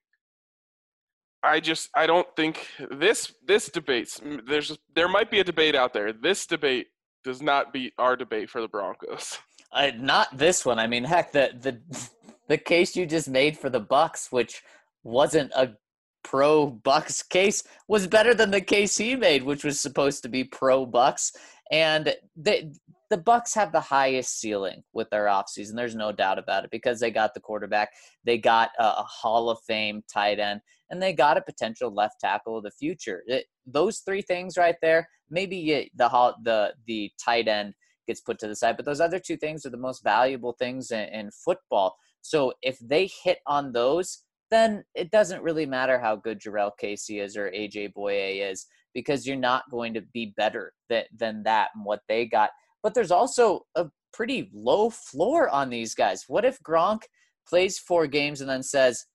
I don't think this debates. There might be a debate out there. This debate does not beat our debate for the Broncos. Not this one. I mean, heck, the case you just made for the Bucs, which wasn't a pro Bucs case, was better than the case he made, which was supposed to be pro Bucs. And the Bucs have the highest ceiling with their offseason. There's no doubt about it, because they got the quarterback, they got a Hall of Fame tight end, and they got a potential left tackle of the future. Those three things right there, maybe the tight end gets put to the side, but those other two things are the most valuable things in football. So if they hit on those, then it doesn't really matter how good Jurrell Casey is or AJ Boye is, because you're not going to be better than that and what they got. But there's also a pretty low floor on these guys. What if Gronk plays 4 games and then says,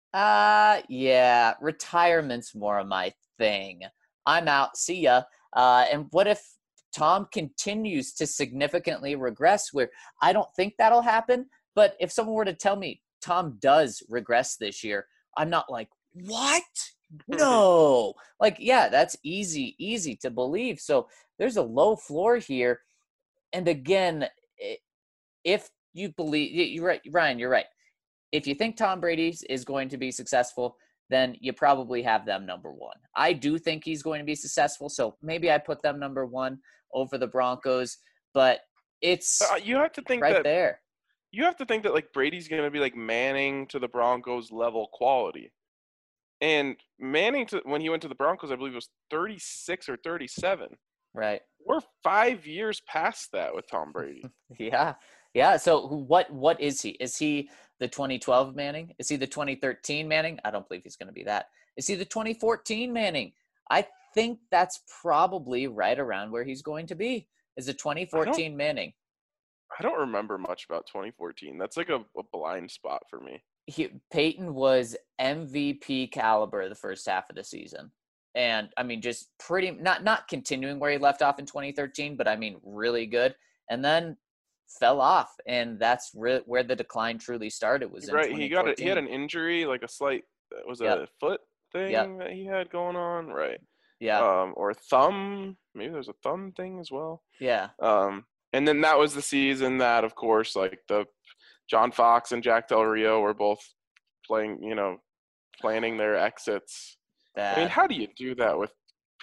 yeah, retirement's more of my thing. I'm out. See ya. And what if Tom continues to significantly regress, where I don't think that'll happen, but if someone were to tell me Tom does regress this year, I'm not like, what? No. Like, yeah, that's easy to believe. So there's a low floor here. And again, if you believe, you're right, Ryan, you're right. If you think Tom Brady is going to be successful, then you probably have them number 1. I do think he's going to be successful, so maybe I put them number 1 over the Broncos, but it's you have to think right that there. You have to think that like Brady's going to be like Manning to the Broncos level quality. And Manning, when he went to the Broncos, I believe it was 36 or 37. Right. We're 5 years past that with Tom Brady. Yeah. So what is he? Is he the 2012 Manning? Is he the 2013 Manning? I don't believe he's going to be that. Is he the 2014 Manning? I think that's probably right around where he's going to be, is the 2014 Manning. I don't remember much about 2014. That's like a blind spot for me. Peyton was MVP caliber the first half of the season. And I mean, just pretty not continuing where he left off in 2013, but I mean, really good. And then fell off, and that's where the decline truly started. Was right. In He had an injury, like a slight a foot thing that he had going on, right? Yeah. Or thumb. Maybe there's a thumb thing as well. Yeah. And then that was the season that, of course, like the John Fox and Jack Del Rio were both planning their exits. I mean, how do you do that with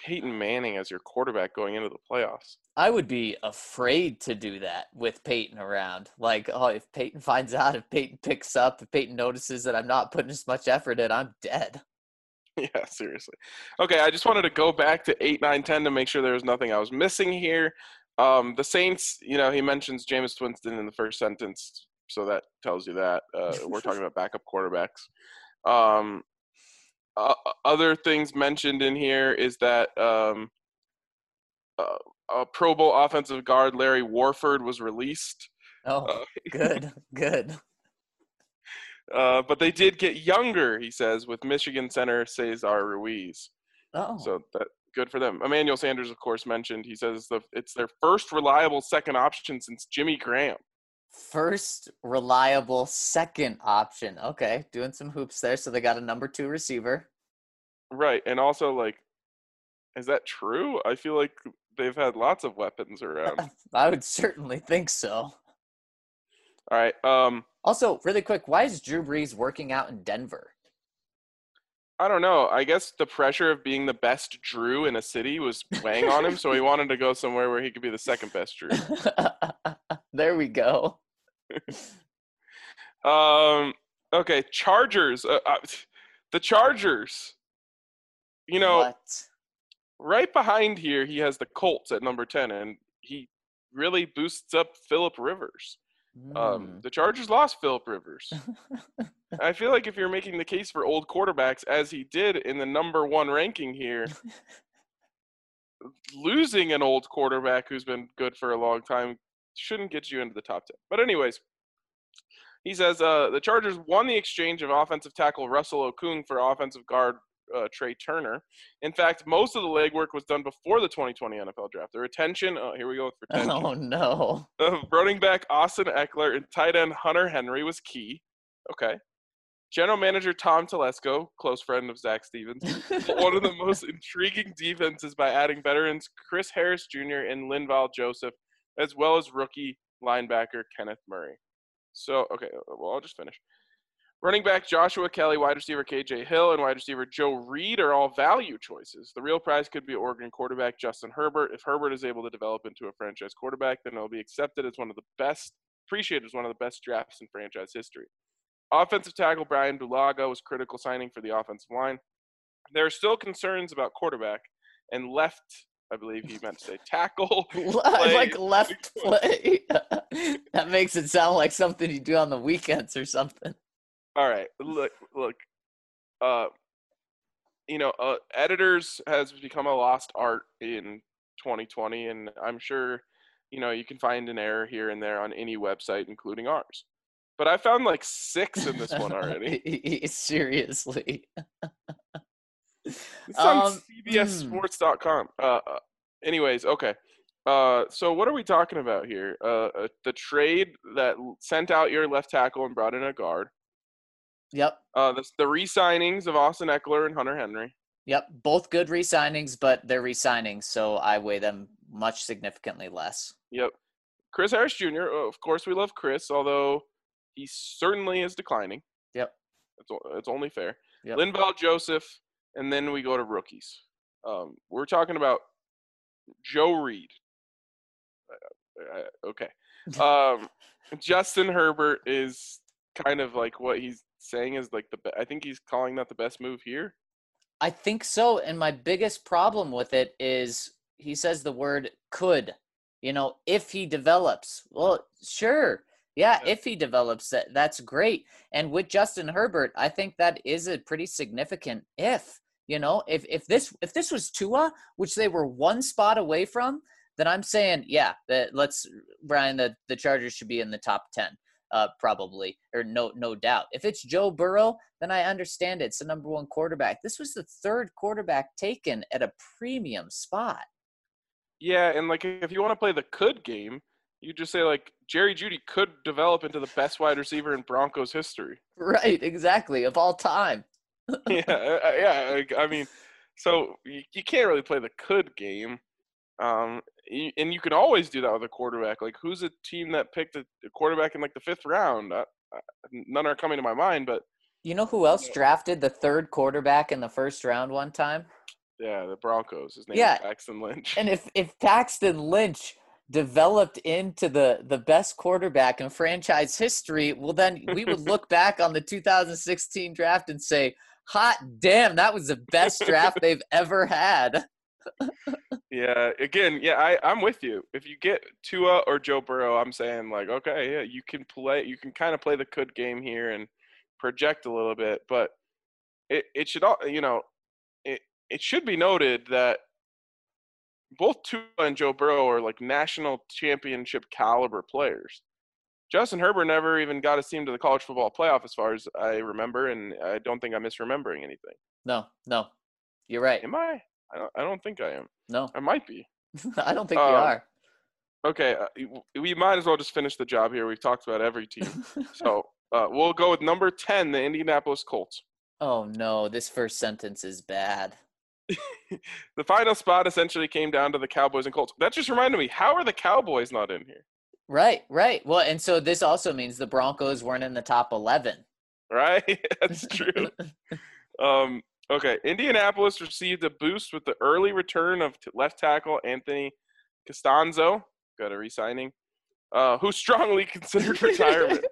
Peyton Manning as your quarterback going into the playoffs. I would be afraid to do that with Peyton around. Like, oh, if Peyton finds out, if Peyton picks up, if Peyton notices that I'm not putting as much effort in, I'm dead. Yeah, seriously. Okay, I just wanted to go back to 8, 9, 10 to make sure there was nothing I was missing here. The Saints, he mentions Jameis Winston in the first sentence, so that tells you that. We're talking about backup quarterbacks. Other things mentioned in here is that Pro Bowl offensive guard Larry Warford was released. Oh, good. But they did get younger, he says, with Michigan center Cesar Ruiz. Oh, So that good for them. Emmanuel Sanders, of course, mentioned. He says it's their first reliable second option since Jimmy Graham. first reliable second option. Okay, doing some hoops there. So they got a number 2 receiver. Right, and also, like, is that true? I feel like they've had lots of weapons around. I would certainly think so. All right. Also, really quick, why is Drew Brees working out in Denver? I don't know. I guess the pressure of being the best Drew in a city was weighing on him, so he wanted to go somewhere where he could be the second best Drew. There we go. Okay, Chargers. The Chargers. What? Right behind here, he has the Colts at number 10, and he really boosts up Phillip Rivers. The Chargers lost Phillip Rivers. I feel like if you're making the case for old quarterbacks, as he did in the number 1 ranking here, losing an old quarterback who's been good for a long time shouldn't get you into the top 10. But anyways, he says the Chargers won the exchange of offensive tackle Russell Okung for offensive guard Trey Turner. In fact, most of the legwork was done before the 2020 NFL Draft. The retention, here we go with retention. Oh, no. Running back Austin Eckler and tight end Hunter Henry was key. Okay. General manager Tom Telesco, close friend of Zach Stevens, one of the most intriguing defenses by adding veterans Chris Harris Jr. and Linval Joseph, as well as rookie linebacker Kenneth Murray. So, okay, well, I'll just finish. Running back Joshua Kelly, wide receiver KJ Hill, and wide receiver Joe Reed are all value choices. The real prize could be Oregon quarterback Justin Herbert. If Herbert is able to develop into a franchise quarterback, then he'll be accepted as appreciated as one of the best drafts in franchise history. Offensive tackle Brian Bulaga was critical signing for the offensive line. There are still concerns about quarterback and left, I believe he meant to say tackle. Like left play. That makes it sound like something you do on the weekends or something. All right, look. Editors has become a lost art in 2020, and I'm sure, you can find an error here and there on any website, including ours. But I found like 6 in this one already. Seriously. It's on CBSSports.com. Anyways, okay. So what are we talking about here? The trade that sent out your left tackle and brought in a guard. Yep. The re-signings of Austin Eckler and Hunter Henry. Yep. Both good re-signings, but they're re-signings, so I weigh them much significantly less. Yep. Chris Harris Jr., of course we love Chris, although he certainly is declining. Yep. It's only fair. Yep. Linval Joseph, and then we go to rookies. We're talking about Joe Reed. Okay. Justin Herbert is kind of like what he's saying is like I think he's calling that the best move here. I think so, and my biggest problem with it is he says the word could. If he develops. Well, sure. Yeah, if he develops, that's great. And with Justin Herbert, I think that is a pretty significant if. If this was Tua, which they were one spot away from, then I'm saying, yeah, Brian, the Chargers should be in the top 10, probably, or no doubt. If it's Joe Burrow, then I understand it's the number 1 quarterback. This was the 3rd quarterback taken at a premium spot. Yeah, and like if you want to play the could game, you just say like Jerry Jeudy could develop into the best wide receiver in Broncos history. Right, exactly, of all time. Yeah. I mean, so you can't really play the could game, and you can always do that with a quarterback. Like, who's a team that picked a quarterback in like the 5th round? None are coming to my mind, but you know who else drafted the 3rd quarterback in the 1st round one time? Yeah, the Broncos. His name is Yeah, Paxton Lynch. and if Paxton Lynch developed into the best quarterback in franchise history, well, then we would look back on the 2016 draft and say, hot damn, that was the best draft they've ever had. Yeah, again, yeah, I'm with you. If you get Tua or Joe Burrow, I'm saying like, okay, yeah, you can kind of play the good game here and project a little bit, but it should all, it it should be noted that both Tua and Joe Burrow are like national championship caliber players. Justin Herbert never even got his team to the college football playoff, as far as I remember, and I don't think I'm misremembering anything. No, you're right. Am I? I don't think I am. No, I might be. I don't think you are. Okay, we might as well just finish the job here. We've talked about every team. So we'll go with number 10, the Indianapolis Colts. Oh no, this first sentence is bad. The final spot essentially came down to the Cowboys and Colts. That just reminded me, how are the Cowboys not in here? Right. Well, and so this also means the Broncos weren't in the top 11. Right? That's true. Okay, Indianapolis received a boost with the early return of left tackle Anthony Costanzo, got a re-signing, who strongly considered retirement.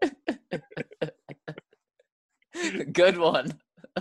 Good one.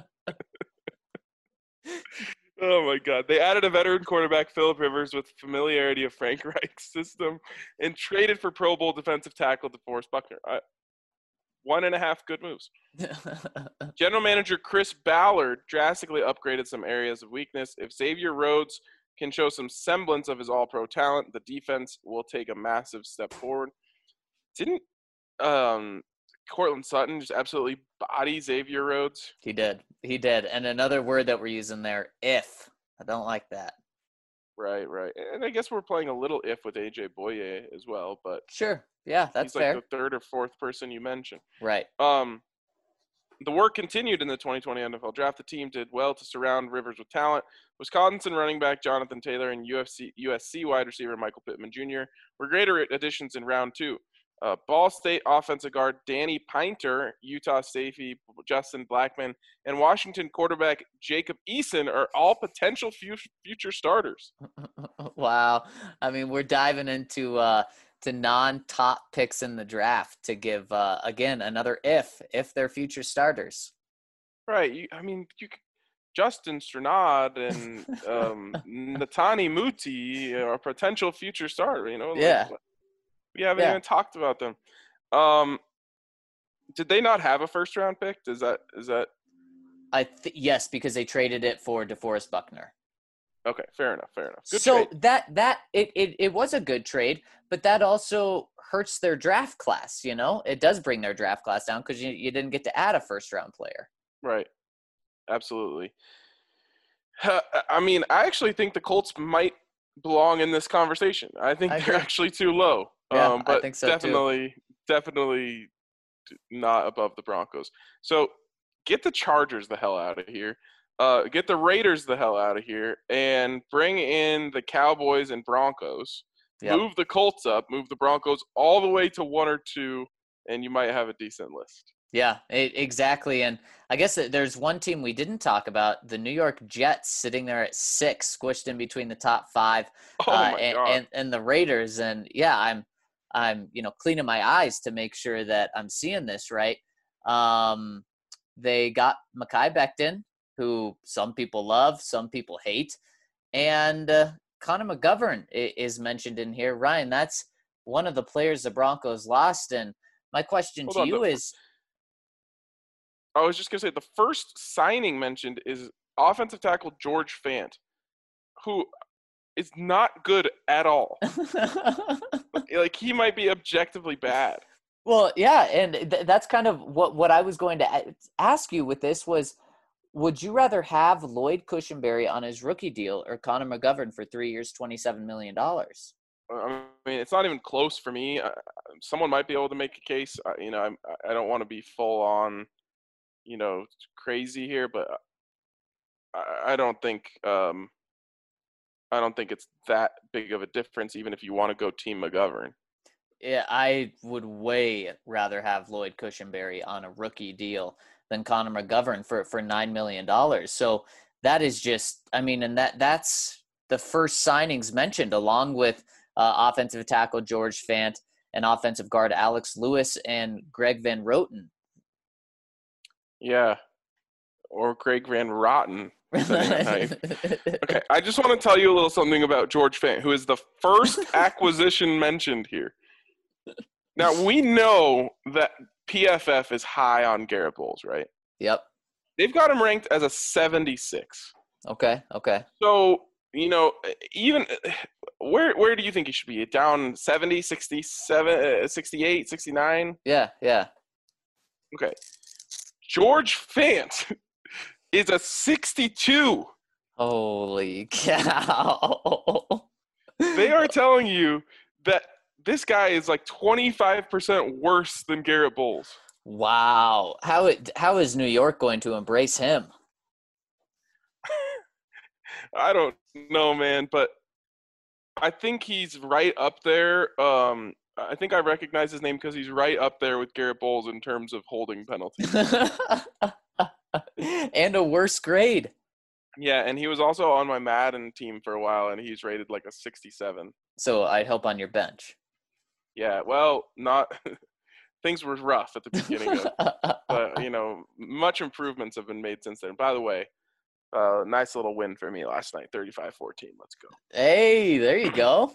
Oh, my God. They added a veteran quarterback, Phillip Rivers, with familiarity of Frank Reich's system, and traded for Pro Bowl defensive tackle DeForest Buckner. 1.5 good moves. General manager Chris Ballard drastically upgraded some areas of weakness. If Xavier Rhodes can show some semblance of his all-pro talent, the defense will take a massive step forward. Didn't Cortland Sutton just absolutely body Xavier Rhodes? He did. And another word that we're using there, if. I don't like that. Right. And I guess we're playing a little if with AJ Boye as well, but sure. Yeah, that's he's fair. like the third or fourth person you mentioned. Right. The work continued in the 2020 NFL Draft. The team did well to surround Rivers with talent. Wisconsin running back Jonathan Taylor and USC wide receiver Michael Pittman Jr. were greater additions in round 2. Ball State offensive guard Danny Pinter, Utah safety Justin Blackman, and Washington quarterback Jacob Eason are all potential future starters. Wow. I mean, we're diving into to non-top picks in the draft to give, again, another if they're future starters. Right. Justin Strnad and Netani Muti are potential future starter, Yeah. We haven't even talked about them. Did they not have a first round pick? Is that? Yes, because they traded it for DeForest Buckner. Okay, fair enough. Good so trade. it was a good trade, but that also hurts their draft class. It does bring their draft class down because you didn't get to add a first round player. Right. Absolutely. I mean, I actually think the Colts might belong in this conversation. I think they're actually too low. Yeah, but I think so definitely not above the Broncos. So get the Chargers the hell out of here. Get the Raiders the hell out of here, and bring in the Cowboys and Broncos. Yep. Move the Colts up, move the Broncos all the way to 1 or 2, and you might have a decent list. Yeah, exactly. And I guess there's one team we didn't talk about, the New York Jets, sitting there at 6, squished in between the top 5, and the Raiders. And yeah, I'm cleaning my eyes to make sure that I'm seeing this right. They got Mekhi Becton, who some people love, some people hate, and Connor McGovern is mentioned in here. Ryan, that's one of the players the Broncos lost. And my question to you is, I was just going to say the first signing mentioned is offensive tackle George Fant, who is not good at all. Like, he might be objectively bad. Well, yeah, and that's kind of what I was going to ask you with this was, would you rather have Lloyd Cushenberry on his rookie deal or Connor McGovern for 3 years, $27 million? I mean, it's not even close for me. Someone might be able to make a case. I don't want to be full on, crazy here, but I don't think it's that big of a difference, even if you want to go Team McGovern. Yeah, I would way rather have Lloyd Cushenberry on a rookie deal than Connor McGovern for $9 million. So that is just, I mean, and that's the first signings mentioned, along with offensive tackle George Fant and offensive guard Alex Lewis and Greg Van Roten. Yeah, or Greg Van Rotten. Okay, I just want to tell you a little something about George Fant, who is the first acquisition mentioned here. Now, we know that PFF is high on Garrett Bowles, right? Yep. They've got him ranked as a 76. Okay. So, even where do you think he should be? Down 70, 67, 68, 69? Yeah. Okay. George Fant is a 62. Holy cow. They are telling you that this guy is like 25% worse than Garrett Bowles. Wow. How is New York going to embrace him? I don't know, man, but I think he's right up there. I think I recognize his name because he's right up there with Garrett Bowles in terms of holding penalties. And a worse grade. Yeah, and he was also on my Madden team for a while, and he's rated like a 67. So I'd help on your bench. Yeah, well, not things were rough at the beginning of, but much improvements have been made since then. By the way, nice little win for me last night, 35-14. Let's go. Hey, there you go.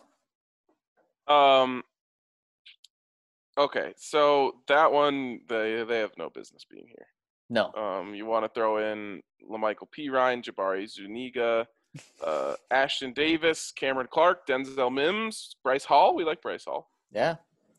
Okay, so that one they have no business being here. No. You want to throw in LaMichael Pirine, Jabari Zuniga, Ashton Davis, Cameron Clark, Denzel Mims, Bryce Hall. We like Bryce Hall. Yeah.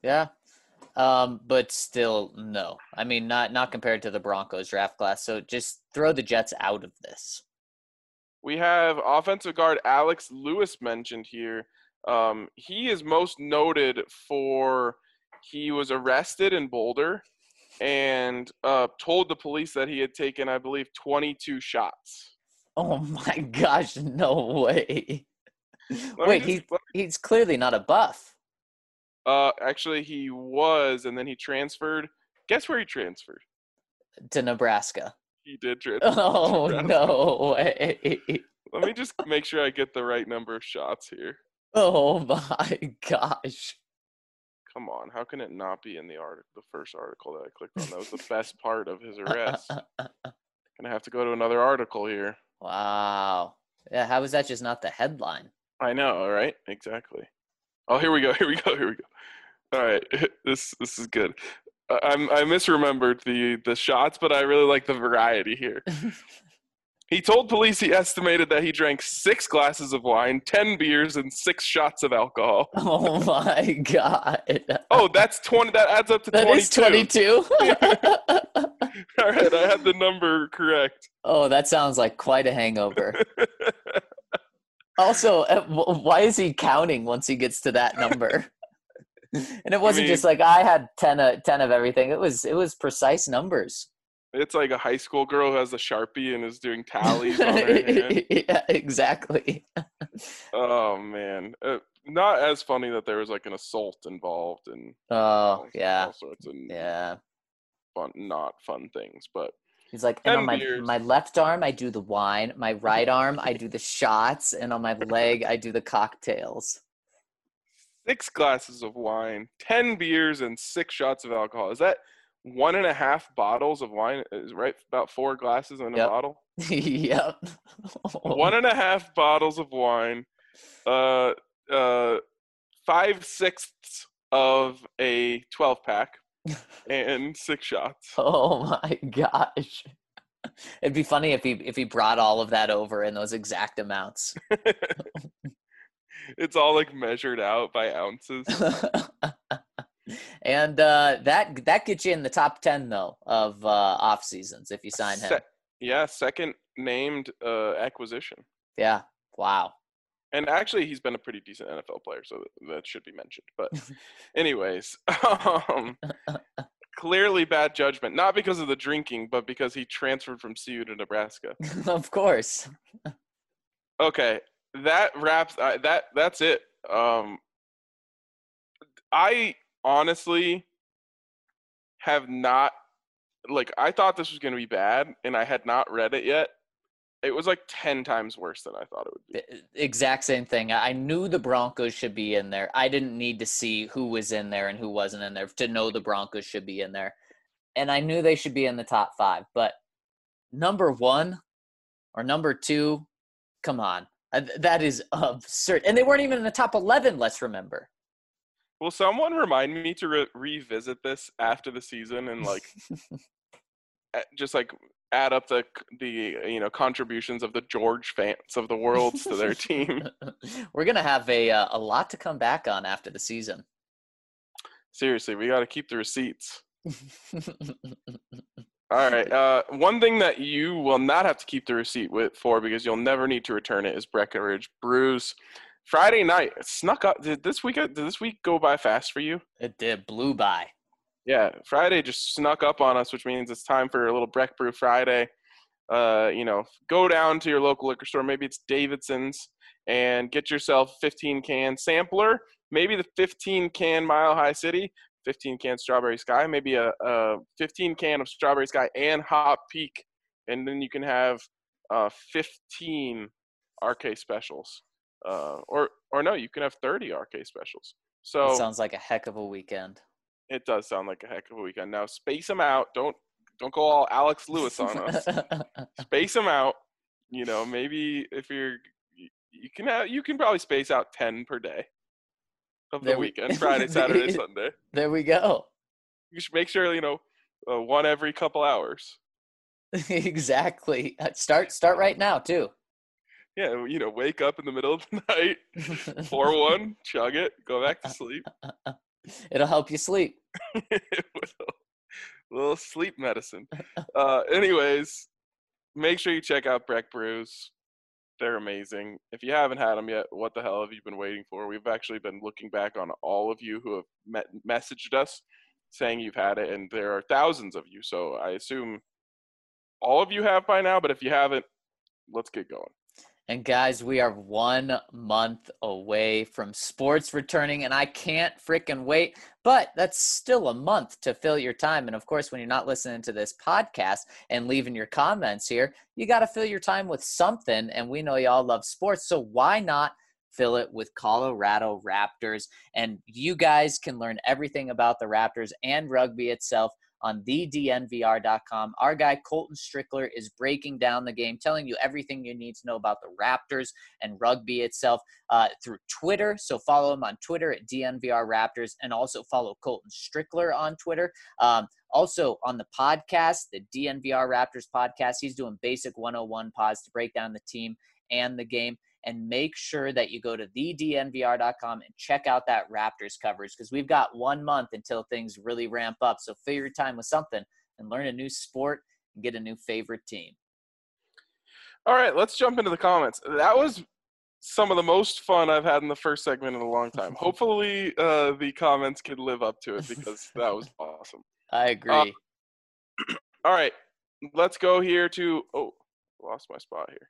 But still, no. I mean, not compared to the Broncos draft class. So just throw the Jets out of this. We have offensive guard Alex Lewis mentioned here. He is most noted for he was arrested in Boulder and told the police that he had taken, I believe, 22 shots. Oh my gosh, no way. Wait, he's clearly not a buff. Actually, he was, and then he transferred. Guess where he transferred? To Nebraska. He did transfer. Oh, no way. Let me just make sure I get the right number of shots here. Oh my gosh. Come on, how can it not be in the first article that I clicked on? That was the best part of his arrest. Gonna have to go to another article here. Wow. Yeah, how is that just not the headline? I know, right? Exactly. Oh, here we go. All right, this is good. I misremembered the shots, but I really like the variety here. He told police he estimated that he drank 6 glasses of wine, 10 beers, and 6 shots of alcohol. Oh my god. Oh, that's 20. That adds up to 22. That is 22? All right, I had the number correct. Oh, that sounds like quite a hangover. Also, why is he counting once he gets to that number? And it wasn't just like I had 10 of everything. It was precise numbers. It's like a high school girl who has a Sharpie and is doing tallies on her hand. Yeah, exactly. Oh, man. Not as funny that there was like an assault involved and all sorts of not fun things. But he's like, and on my left arm, I do the wine. My right arm, I do the shots. And on my leg, I do the cocktails. 6 glasses of wine, 10 beers, and 6 shots of alcohol. Is that 1.5 bottles of wine? Is right? About 4 glasses in a bottle? Yep. 1.5 bottles of wine, 5/6 of a 12-pack, and 6 shots. Oh my gosh. It'd be funny if he brought all of that over in those exact amounts. It's all like measured out by ounces. And that gets you in the top 10 though of off seasons if you sign him. Yeah, second named acquisition. Yeah. Wow. And actually, he's been a pretty decent NFL player, so that should be mentioned. But anyways, clearly bad judgment, not because of the drinking, but because he transferred from CU to Nebraska. Of course. Okay, that wraps. That's it. I honestly have not, I thought this was going to be bad, and I had not read it yet. It was like 10 times worse than I thought it would be. The exact same thing. I knew the Broncos should be in there. I didn't need to see who was in there and who wasn't in there to know the Broncos should be in there. And I knew they should be in the top 5. But number 1 or number 2, come on. That is absurd. And they weren't even in the top 11, let's remember. Will someone remind me to revisit this after the season and like just like add up the contributions of the George fans of the world to their team? We're gonna have a lot to come back on after the season. Seriously, we got to keep the receipts. All right. One thing that you will not have to keep the receipt for because you'll never need to return it is Breckenridge Brews. Friday night, it snuck up. Did this week go by fast for you? It did. Blew by. Yeah, Friday just snuck up on us, which means it's time for a little Breck Brew Friday. Go down to your local liquor store. Maybe it's Davidson's and get yourself 15-can sampler. Maybe the 15-can Mile High City, 15-can Strawberry Sky, maybe a 15-can of Strawberry Sky and Hop Peak. And then you can have 15 RK specials. Or no, you can have 30 RK specials. So it sounds like a heck of a weekend. It does sound like a heck of a weekend. Now space them out. Don't go all Alex Lewis on us. Space them out. Maybe if you can probably space out 10 per day of the weekend. Friday, Saturday, Sunday. There we go. You should make sure one every couple hours. Exactly. Start right now too. Yeah, wake up in the middle of the night, pour one, chug it, go back to sleep. It'll help you sleep. It will. A little sleep medicine. Anyways, make sure you check out Breck Brews. They're amazing. If you haven't had them yet, what the hell have you been waiting for? We've actually been looking back on all of you who have messaged us saying you've had it, and there are thousands of you. So I assume all of you have by now, but if you haven't, let's get going. And guys, we are 1 month away from sports returning, and I can't freaking wait. But that's still a month to fill your time. And of course, when you're not listening to this podcast and leaving your comments here, you got to fill your time with something. And we know y'all love sports, so why not fill it with Colorado Raptors? And you guys can learn everything about the Raptors and rugby itself on thednvr.com. Our guy Colton Strickler is breaking down the game, telling you everything you need to know about the Raptors and rugby itself through Twitter. So follow him on Twitter at DNVR Raptors, and also follow Colton Strickler on Twitter. Also on the podcast, the DNVR Raptors podcast, he's doing basic 101 pods to break down the team and the game. And make sure that you go to thednvr.com and check out that Raptors coverage, because we've got 1 month until things really ramp up. So fill your time with something and learn a new sport and get a new favorite team. All right, let's jump into the comments. That was some of the most fun I've had in the first segment in a long time. Hopefully the comments could live up to it, because that was awesome. I agree. All right, let's go here to – lost my spot here.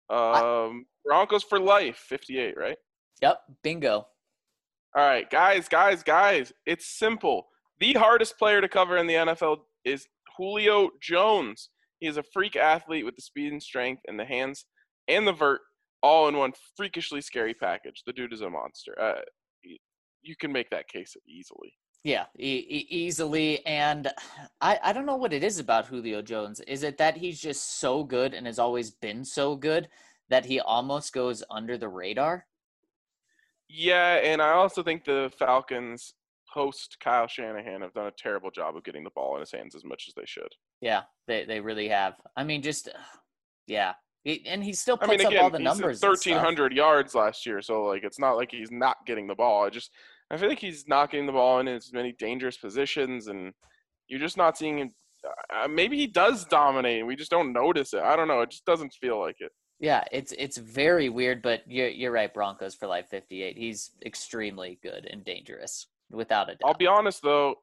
Broncos for life, 58, right? Yep, bingo. All right, guys, it's simple. The hardest player to cover in the NFL is Julio Jones. He is a freak athlete with the speed and strength and the hands and the vert all in one freakishly scary package. The dude is a monster. You can make that case easily. Yeah, easily. And I don't know what it is about Julio Jones. Is it that he's just so good and has always been so good that he almost goes under the radar? Yeah, and I also think the Falcons post Kyle Shanahan have done a terrible job of getting the ball in his hands as much as they should. Yeah, they really have. I mean, yeah. And he still puts up all the numbers. He's 1,300 yards last year, so it's not like he's not getting the ball. I feel like he's not getting the ball in as many dangerous positions, and you're just not seeing him. Maybe he does dominate, and we just don't notice it. I don't know. It just doesn't feel like it. Yeah, it's very weird, but you're right, Broncos for life 58. He's extremely good and dangerous, without a doubt. I'll be honest, though.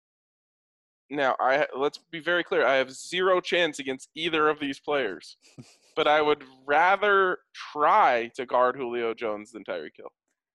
Now, let's be very clear. I have zero chance against either of these players, but I would rather try to guard Julio Jones than Tyreek Hill.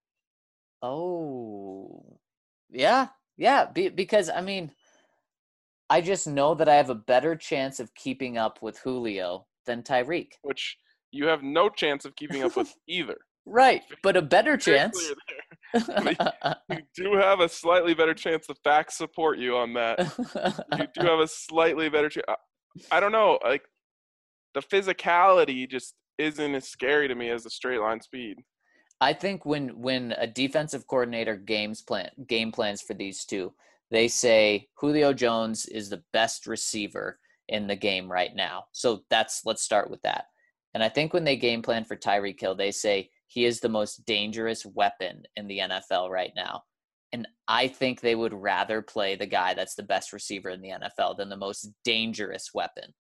Oh, yeah, because, I just know that I have a better chance of keeping up with Julio than Tyreek. which you have no chance of keeping up with either. Right, but a better Very chance. clear there. You do have a slightly better chance. The facts support you on that. You do have a slightly better chance. I don't know. Like, the physicality just isn't as scary to me as the straight line speed. I think when a defensive coordinator game plans for these two, they say Julio Jones is the best receiver in the game right now. So let's start with that. And I think when they game plan for Tyreek Hill, they say he is the most dangerous weapon in the NFL right now. And I think they would rather play the guy that's the best receiver in the NFL than the most dangerous weapon.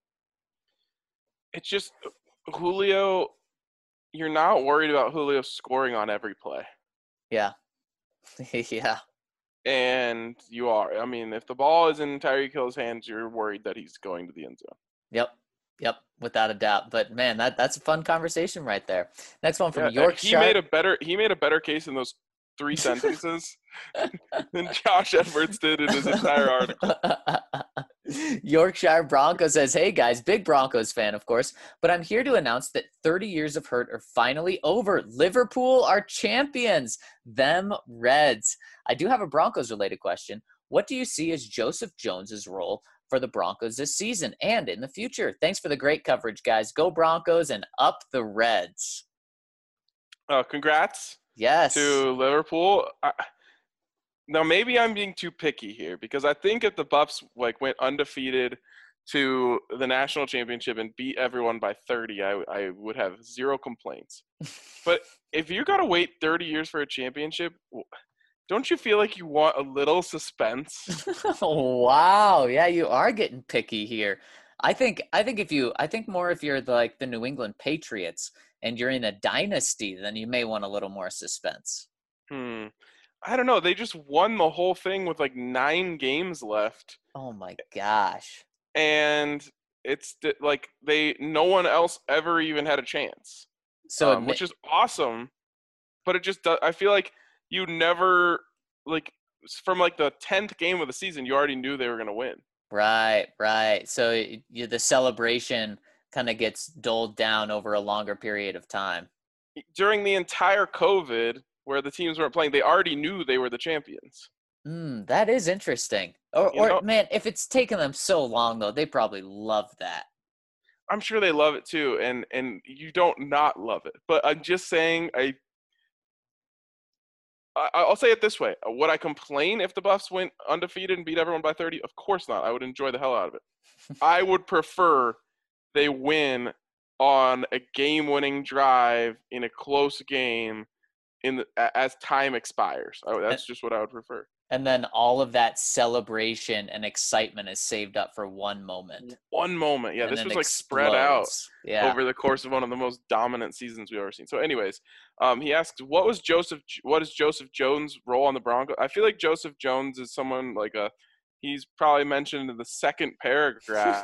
It's just Julio. You're not worried about Julio scoring on every play. Yeah. Yeah. And you are. I mean, if the ball is in Tyreek Hill's hands, you're worried that he's going to the end zone. Yep, without a doubt. But man, that's a fun conversation right there. Next one from Yeah, Yorkshire. He made a better case in those 3 sentences than Josh Edwards did in his entire article. Yorkshire Broncos says, hey guys, big Broncos fan, of course, but I'm here to announce that 30 years of hurt are finally over. Liverpool are champions. Them Reds. I do have a Broncos related question. What do you see as Joseph Jones's role for the Broncos this season and in the future? Thanks for the great coverage, guys. Go Broncos and up the Reds. Congrats. Yes. To Liverpool. Now, maybe I'm being too picky here because I think if the Buffs went undefeated to the national championship and beat everyone by 30, I would have zero complaints. But if you got to wait 30 years for a championship, don't you feel like you want a little suspense? Wow. Yeah, you are getting picky here. I think more if you're the New England Patriots and you're in a dynasty, then you may want a little more suspense. I don't know. They just won the whole thing with 9 games left. Oh my gosh. And it's no one else ever even had a chance. So which is awesome, but it just I feel like you never from the 10th game of the season you already knew they were going to win. Right. So the celebration kind of gets doled down over a longer period of time. During the entire COVID where the teams weren't playing, they already knew they were the champions. That is interesting. Or man, if it's taken them so long though, they probably love that. I'm sure they love it too, and you don't not love it. But I'm just saying, I'll say it this way: would I complain if the Buffs went undefeated and beat everyone by 30? Of course not. I would enjoy the hell out of it. I would prefer they win on a game-winning drive in a close game as time expires. That's just what I would prefer. And then all of that celebration and excitement is saved up for one moment. One moment. Yeah, this was spread out over the course of one of the most dominant seasons we've ever seen. So anyways, he asked, what is Joseph Jones' role on the Broncos? I feel like Joseph Jones is someone he's probably mentioned in the second paragraph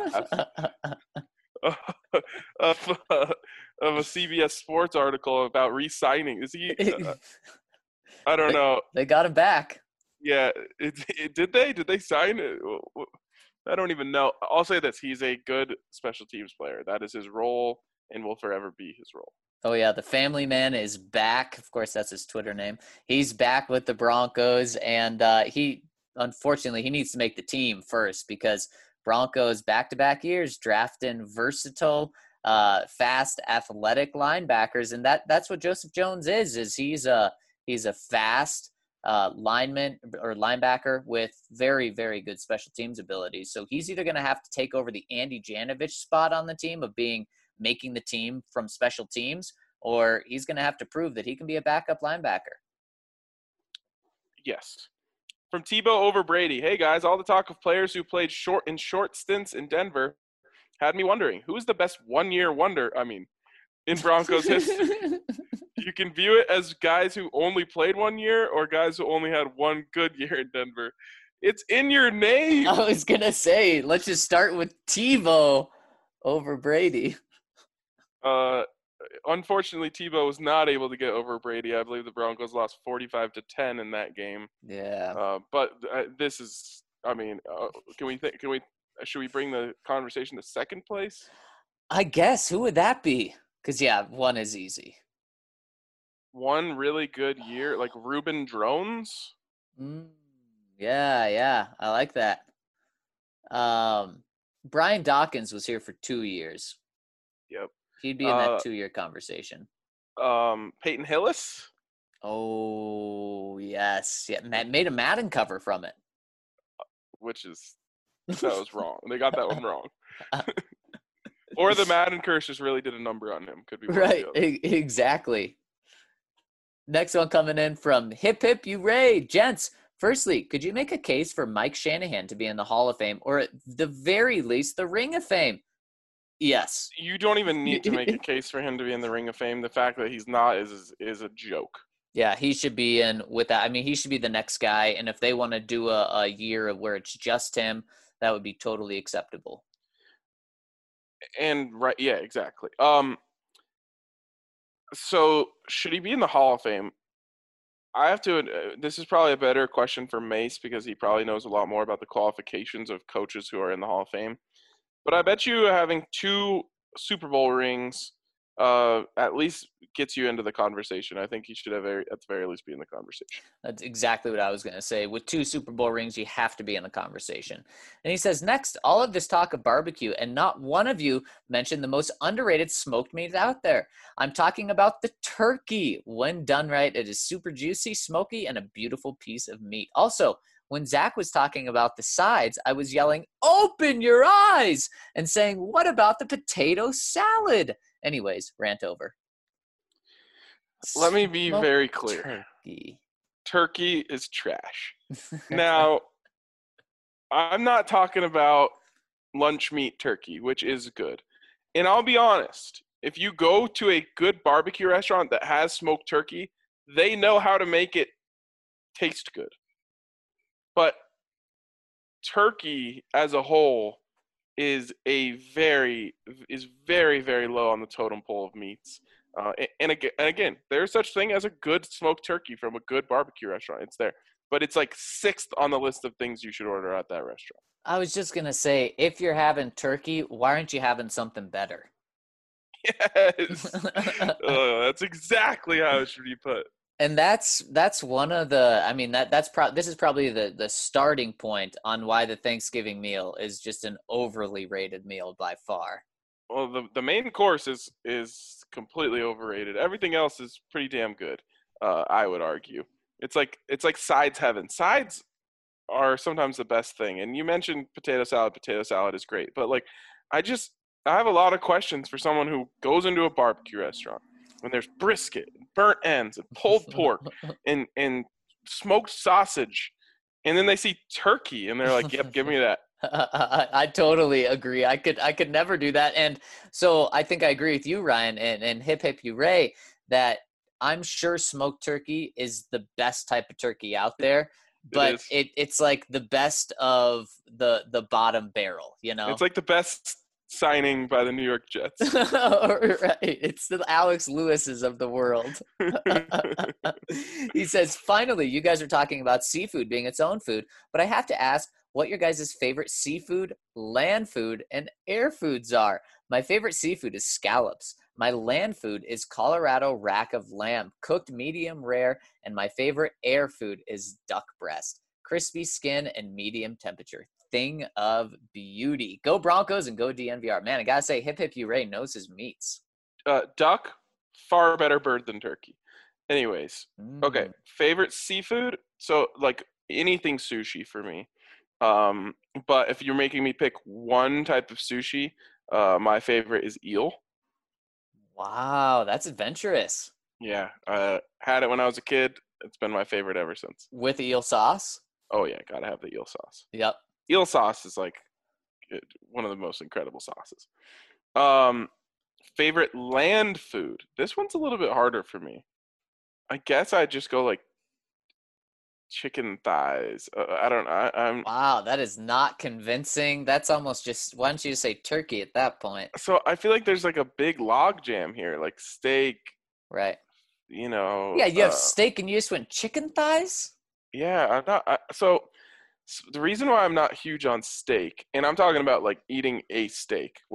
of a CBS Sports article about re-signing. Is he? I don't know. They got him back. Yeah, did they sign it? I don't even know. I'll say this: he's a good special teams player. That is his role, and will forever be his role. Oh yeah, the family man is back. Of course, that's his Twitter name. He's back with the Broncos, and he needs to make the team first because Broncos back-to-back years drafting versatile, fast, athletic linebackers, and that's what Joseph Jones is he's a fast lineman or linebacker with very, very good special teams abilities. So he's either going to have to take over the Andy Janovich spot on the team of making the team from special teams, or he's going to have to prove that he can be a backup linebacker. Yes. From Tebow over Brady. Hey guys, all the talk of players who played short stints in Denver had me wondering, who's the best one-year wonder? I mean, in Broncos history. You can view it as guys who only played 1 year or guys who only had one good year in Denver. It's in your name. I was going to say, let's just start with Tebow over Brady. Unfortunately, Tebow was not able to get over Brady. I believe the Broncos lost 45-10 in that game. Yeah. But this is, I mean, should we bring the conversation to second place? I guess who would that be? Because yeah, one is easy. One really good year, like Ruben Drones. Mm, yeah, I like that. Brian Dawkins was here for 2 years. Yep. He'd be in that Uh, 2 year conversation. Peyton Hillis, Oh yes, yeah. Made a Madden cover from it. which is that was wrong. They got that one wrong. Or the Madden curse just really did a number on him. Could be one or Right, the other. exactly. Next one coming in from Hip Hip Hooray, gents. Firstly, could you make a case for Mike Shanahan to be in the Hall of Fame, or at the very least, the Ring of Fame? Yes. You don't even need to make a case for him to be in the Ring of Fame. The fact that he's not is a joke. Yeah, he should be in with that. I mean, he should be the next guy. And if they want to do a year where it's just him, that would be totally acceptable. And right, yeah, exactly. So should he be in the Hall of Fame? I have to. This is probably a better question for Mace because he probably knows a lot more about the qualifications of coaches who are in the Hall of Fame. But I bet you having 2 Super Bowl rings at least gets you into the conversation. I think he should have at the very least be in the conversation. That's exactly what I was going to say. With 2 Super Bowl rings, you have to be in the conversation. And he says, next, all of this talk of barbecue, and not one of you mentioned the most underrated smoked meat out there. I'm talking about the turkey. When done right, it is super juicy, smoky, and a beautiful piece of meat. Also, when Zach was talking about the sides, I was yelling, open your eyes, and saying, what about the potato salad? Anyways, rant over. Let me be Smoked very clear. Turkey. Turkey is trash. Now, I'm not talking about lunch meat turkey, which is good. And I'll be honest, if you go to a good barbecue restaurant that has smoked turkey, they know how to make it taste good. But turkey as a whole is very, very low on the totem pole of meats. And again, there's such thing as a good smoked turkey from a good barbecue restaurant. It's there, but it's like 6th on the list of things you should order at that restaurant. I was just gonna say, if you're having turkey, why aren't you having something better? Yes, that's exactly how it should be put. And that's one of the. I mean this is probably the starting point on why the Thanksgiving meal is just an overly rated meal by far. Well, the main course is completely overrated. Everything else is pretty damn good. I would argue. It's like sides heaven. Sides are sometimes the best thing. And you mentioned potato salad. Potato salad is great, but like I have a lot of questions for someone who goes into a barbecue restaurant when there's brisket, and burnt ends, and pulled pork, and smoked sausage, and then they see turkey and they're like, "Yep, give me that." I totally agree. I could never do that. And so I think I agree with you, Ryan, and hip hip hooray, that I'm sure smoked turkey is the best type of turkey out there, but it's like the best of the bottom barrel, you know? It's like the best signing by the New York Jets. Right. It's the Alex Lewis's of the world. He says, finally, you guys are talking about seafood being its own food, but I have to ask what your guys' favorite seafood, land food, and air foods are. My favorite seafood is scallops. My land food is Colorado rack of lamb, cooked medium rare, and my favorite air food is duck breast, crispy skin and medium temperature. Thing of beauty. Go Broncos and go DNVR. Man, I gotta say, Hip Hip Hooray knows his meats. Duck, far better bird than turkey. Anyways, okay. Favorite seafood? So like anything sushi for me. But if you're making me pick one type of sushi, my favorite is eel. Wow, that's adventurous. Yeah, had it when I was a kid. It's been my favorite ever since. With eel sauce? Oh yeah, gotta have the eel sauce. Yep. Eel sauce is like one of the most incredible sauces. Favorite land food? This one's a little bit harder for me. I guess I'd just go like chicken thighs. I don't know. I'm Wow, that is not convincing. That's almost just, why don't you just say turkey at that point? So I feel like there's like a big log jam here, like steak. Right. You know. Yeah, you have steak and you just went chicken thighs? Yeah, I'm not. So the reason why I'm not huge on steak, and I'm talking about like eating a steak, which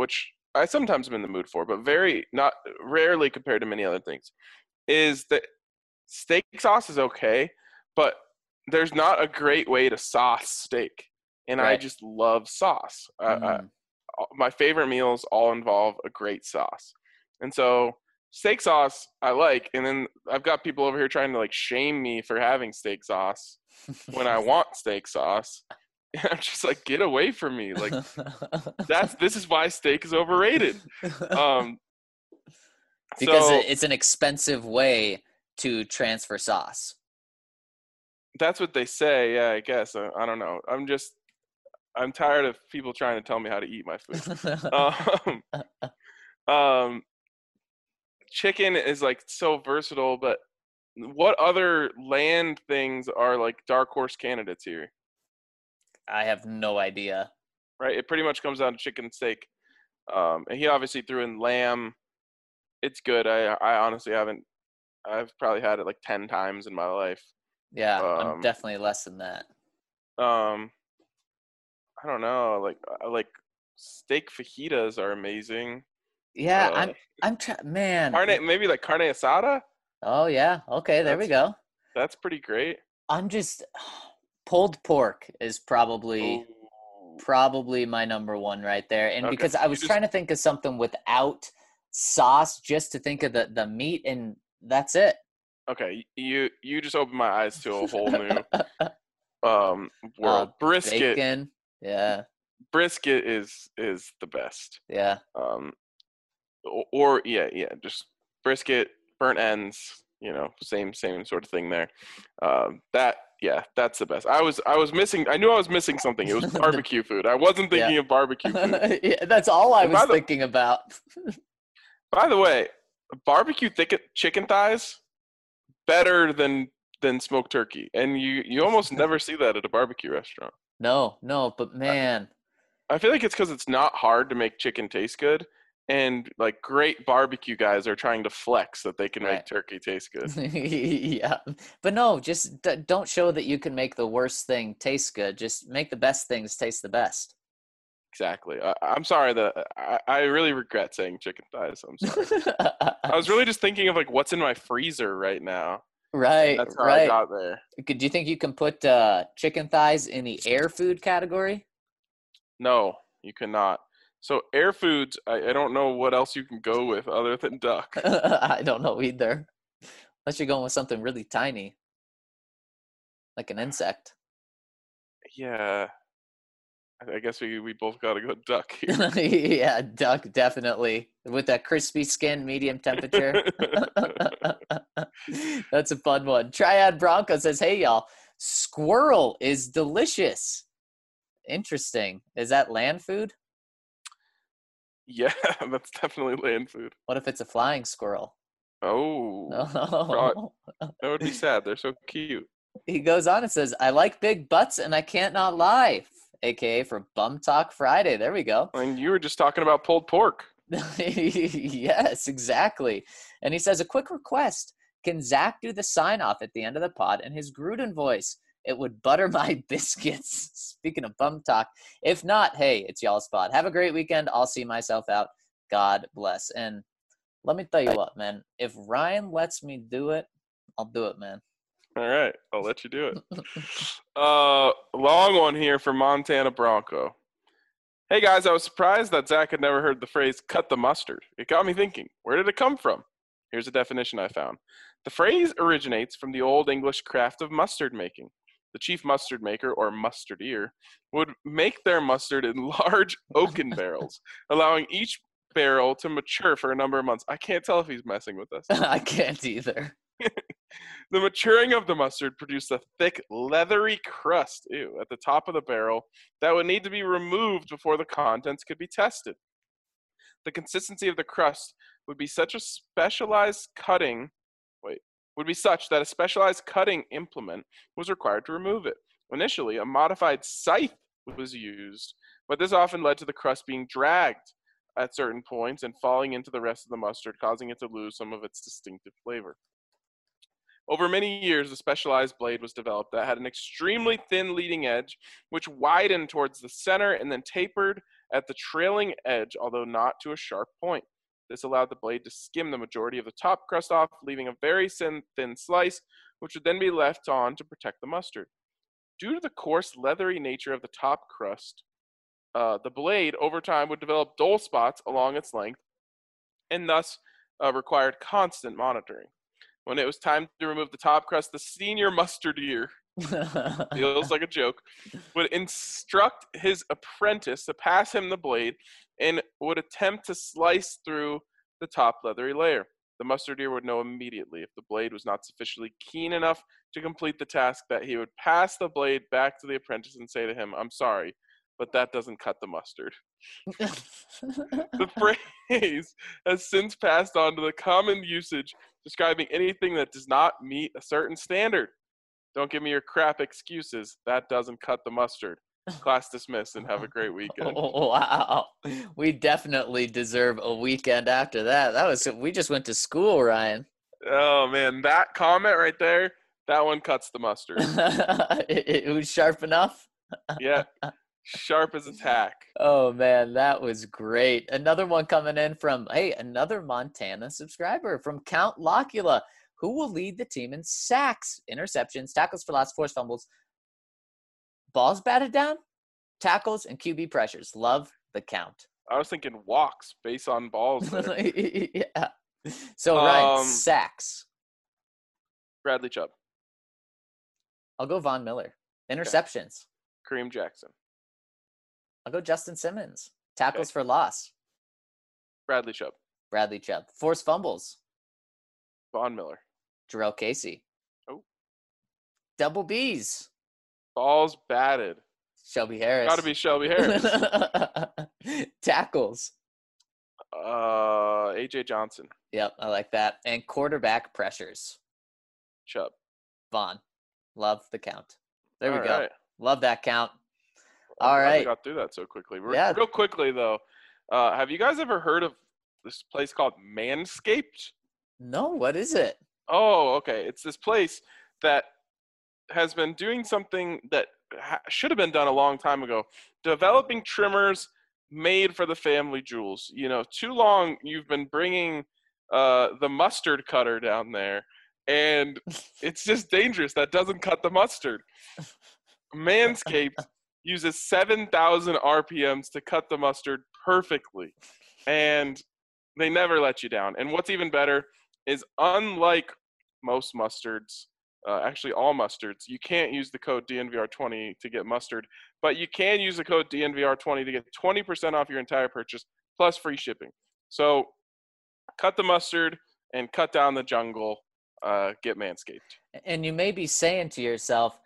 I sometimes am in the mood for, but very not rarely compared to many other things, is that steak sauce is okay, but there's not a great way to sauce steak, and I Right. just love sauce. Mm. My favorite meals all involve a great sauce, and so steak sauce I like, and then I've got people over here trying to like shame me for having steak sauce when I want steak sauce. And I'm just like, get away from me! Like this is why steak is overrated. Um, Because so it's an expensive way to transfer sauce. that's what they say. Yeah, I guess. I don't know. I'm tired of people trying to tell me how to eat my food. Um, um, chicken is like so versatile, but what other land things are like dark horse candidates here? I have no idea. Right? It pretty much comes down to chicken and steak. And he obviously threw in lamb. It's good. I honestly haven't. I've probably had it like 10 times in my life. Yeah, I'm Um, definitely less than that. um, I don't know. Like steak fajitas are amazing. Yeah, Uh, man. maybe like carne asada. Oh yeah. Okay, there we That's go. that's pretty great. I'm just pulled pork is probably Ooh. my number one right there. And Okay, because I you was just trying to think of something without sauce just to think of the meat, and that's it. okay. You just opened my eyes to a whole new uh world. Brisket Bacon. Yeah. brisket is the best. Yeah. Um, or yeah, just brisket, burnt ends. Same sort of thing there. That's the best. I was missing. I knew I was missing something. It was barbecue food. I wasn't Yeah. thinking of barbecue food. Yeah, that's all I And was thinking about. by the way, barbecue chicken thighs better than smoked turkey, and you almost never see that at a barbecue restaurant. No, but I, man. I feel like it's because it's not hard to make chicken taste good, and like great barbecue guys are trying to flex that they can Right. make turkey taste good. Yeah. But no, just don't show that you can make the worst thing taste good. Just make the best things taste the best. Exactly. I'm sorry that I really regret saying chicken thighs. I'm sorry. I was really just thinking of like what's in my freezer right now. And Right, that's how I right. got there. Do you think you can put chicken thighs in the air food category? No, you cannot. So air foods, I don't know what else you can go with other than duck. I don't know either. Unless you're going with something really tiny, like an insect. Yeah, I guess we both got to go duck here. Yeah, duck, definitely. With that crispy skin, medium temperature. That's a fun one. Triad Bronco says, hey, y'all, squirrel is delicious. Interesting. Is that land food? Yeah, that's definitely land food. What if it's a flying squirrel? Oh, No. that would be sad. They're so cute. He goes on and says, I like big butts and I can't not lie. AKA for Bum Talk Friday. There we go. And you were just talking about pulled pork. Yes, exactly. And he says, a quick request. Can Zach do the sign off at the end of the pod in his Gruden voice? It would butter my biscuits. Speaking of bum talk. If not, hey, it's y'all's pod. Have a great weekend. I'll see myself out. God bless. And let me tell you what, man. If Ryan lets me do it, I'll do it, man. All right, I'll let you do it. Long one here for Montana Bronco. Hey guys, I was surprised that Zach had never heard the phrase cut the mustard. It got me thinking, where did it come from? Here's a definition I found. The phrase originates from the Old English craft of mustard making. The chief mustard maker, or mustardier, would make their mustard in large oaken barrels, allowing each barrel to mature for a number of months. I can't tell if he's messing with us. I can't either. The maturing of the mustard produced a thick, leathery crust at the top of the barrel that would need to be removed before the contents could be tested. The consistency of the crust would be such that a specialized cutting implement was required to remove it. Initially, a modified scythe was used, but this often led to the crust being dragged at certain points and falling into the rest of the mustard, causing it to lose some of its distinctive flavor. Over many years, a specialized blade was developed that had an extremely thin leading edge, which widened towards the center and then tapered at the trailing edge, although not to a sharp point. This allowed the blade to skim the majority of the top crust off, leaving a very thin slice, which would then be left on to protect the mustard. Due to the coarse, leathery nature of the top crust, the blade over time would develop dull spots along its length and thus required constant monitoring. When it was time to remove the top crust, the senior mustardier, feels like a joke, would instruct his apprentice to pass him the blade and would attempt to slice through the top leathery layer. The mustardier would know immediately if the blade was not sufficiently keen enough to complete the task that he would pass the blade back to the apprentice and say to him, "I'm sorry, but that doesn't cut the mustard." The phrase has since passed on to the common usage describing anything that does not meet a certain standard. Don't give me your crap excuses. That doesn't cut the mustard. Class dismissed and have a great weekend. Oh, wow. We definitely deserve a weekend after that. We just went to school, Ryan. Oh, man, that comment right there, that one cuts the mustard. It was sharp enough? Yeah, sharp as a tack. Oh, man, that was great. Another one coming in from, another Montana subscriber from Count Locula. Who will lead the team in sacks, interceptions, tackles for loss, forced fumbles, balls batted down, tackles, and QB pressures? Love the count. I was thinking walks based on balls there. Yeah. So, Ryan, sacks. Bradley Chubb. I'll go Von Miller. Interceptions. Okay. Kareem Jackson. I'll go Justin Simmons. Tackles for loss. Bradley Chubb. Bradley Chubb. Forced fumbles. Von Miller. Jarrell Casey. Oh. Double B's. Balls batted. Shelby Harris. Got to be Shelby Harris. Tackles. AJ Johnson. Yep, I like that. And quarterback pressures. Chubb. Vaughn. Love the count. There we All go. right. Love that count. All right. right. We got through that so quickly. Yeah. Real quickly, though, have you guys ever heard of this place called Manscaped? No, what is it? Oh, okay. It's this place that has been doing something that should have been done a long time ago, developing trimmers made for the family jewels. You know, too long you've been bringing the mustard cutter down there, and it's just dangerous. That doesn't cut the mustard. Manscaped uses 7,000 RPMs to cut the mustard perfectly, and they never let you down. And what's even better is, unlike most mustards, actually all mustards, you can't use the code DNVR20 to get mustard, but you can use the code DNVR20 to get 20% off your entire purchase plus free shipping. So cut the mustard and cut down the jungle. Get Manscaped. And you may be saying to yourself,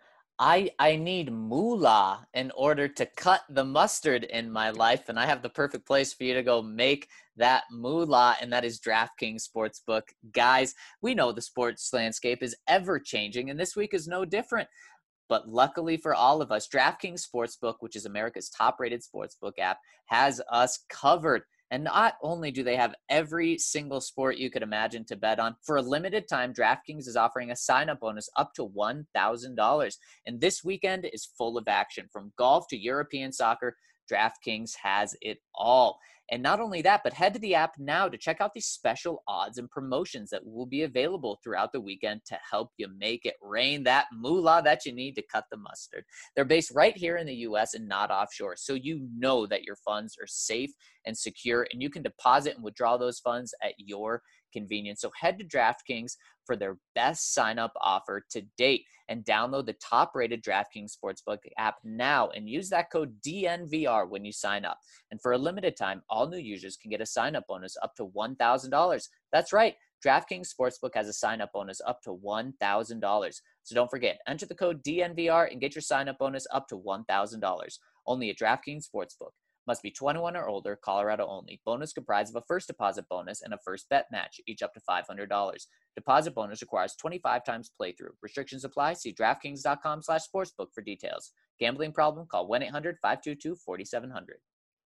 I need moolah in order to cut the mustard in my life, and I have the perfect place for you to go make that moolah, and that is DraftKings Sportsbook. Guys, we know the sports landscape is ever changing, and this week is no different. But luckily for all of us, DraftKings Sportsbook, which is America's top-rated sportsbook app, has us covered. And not only do they have every single sport you could imagine to bet on, for a limited time, DraftKings is offering a sign-up bonus up to $1,000. And this weekend is full of action. From golf to European soccer, DraftKings has it all. And not only that, but head to the app now to check out these special odds and promotions that will be available throughout the weekend to help you make it rain that moolah that you need to cut the mustard. They're based right here in the U.S. and not offshore, so you know that your funds are safe and secure, and you can deposit and withdraw those funds at your convenience. So head to DraftKings for their best sign-up offer to date and download the top-rated DraftKings Sportsbook app now and use that code DNVR when you sign up. And for a limited time, all new users can get a sign-up bonus up to $1,000. That's right. DraftKings Sportsbook has a sign-up bonus up to $1,000. So don't forget, enter the code DNVR and get your sign-up bonus up to $1,000. Only at DraftKings Sportsbook. Must be 21 or older, Colorado only. Bonus comprised of a first deposit bonus and a first bet match, each up to $500. Deposit bonus requires 25 times playthrough. Restrictions apply. See DraftKings.com/sportsbook for details. Gambling problem? Call 1-800-522-4700.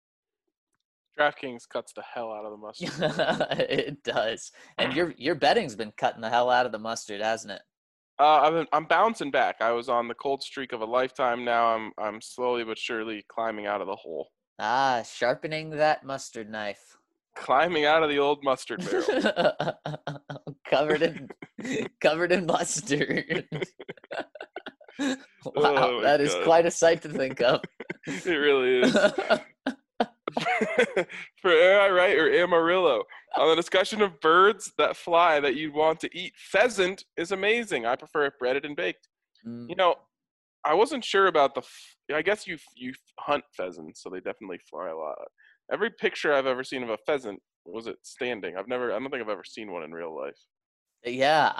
DraftKings cuts the hell out of the mustard. It does. And your betting's been cutting the hell out of the mustard, hasn't it? I'm bouncing back. I was on the cold streak of a lifetime. Now I'm slowly but surely climbing out of the hole. Ah, sharpening that mustard knife. Climbing out of the old mustard barrel. covered in covered in mustard. Wow, Oh my that is God. quite a sight to think of. It really is. For Am I Right or Amarillo? On the discussion of birds that fly that you'd want to eat, pheasant is amazing. I prefer it breaded and baked. Mm, You know, I wasn't sure about I guess you hunt pheasants, so they definitely fly a lot. Every picture I've ever seen of a pheasant was it standing. I don't think I've ever seen one in real life. yeah,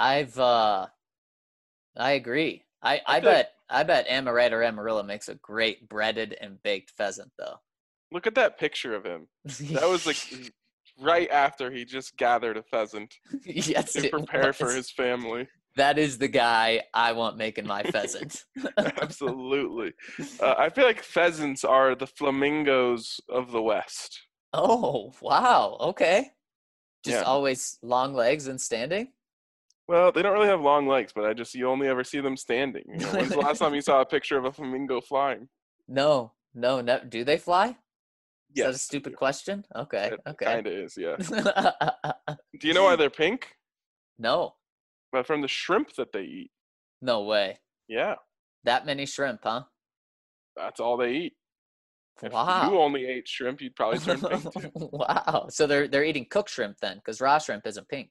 I agree. I, I I feel like, bet I bet Amaretto or Amarillo makes a great breaded and baked pheasant though. look at that picture of him. That was like right after he just gathered a pheasant Yes, to it prepare for was. his family. That is the guy I want making my pheasant. Absolutely. I feel like pheasants are the flamingos of the West. Oh, wow. Okay. Just Yeah. always long legs and standing? Well, they don't really have long legs, but you only ever see them standing. You know, when's the last time you saw a picture of a flamingo flying? No, no. Do they fly? Is that a Yes, stupid question? Okay, it okay. kind of is, yeah. Do you know why they're pink? No, But from the shrimp that they eat. no way. Yeah, That many shrimp, huh? that's all they eat. If you Wow. only ate shrimp, you'd probably turn pink too. Wow. So they're eating cooked shrimp then, because raw shrimp isn't pink.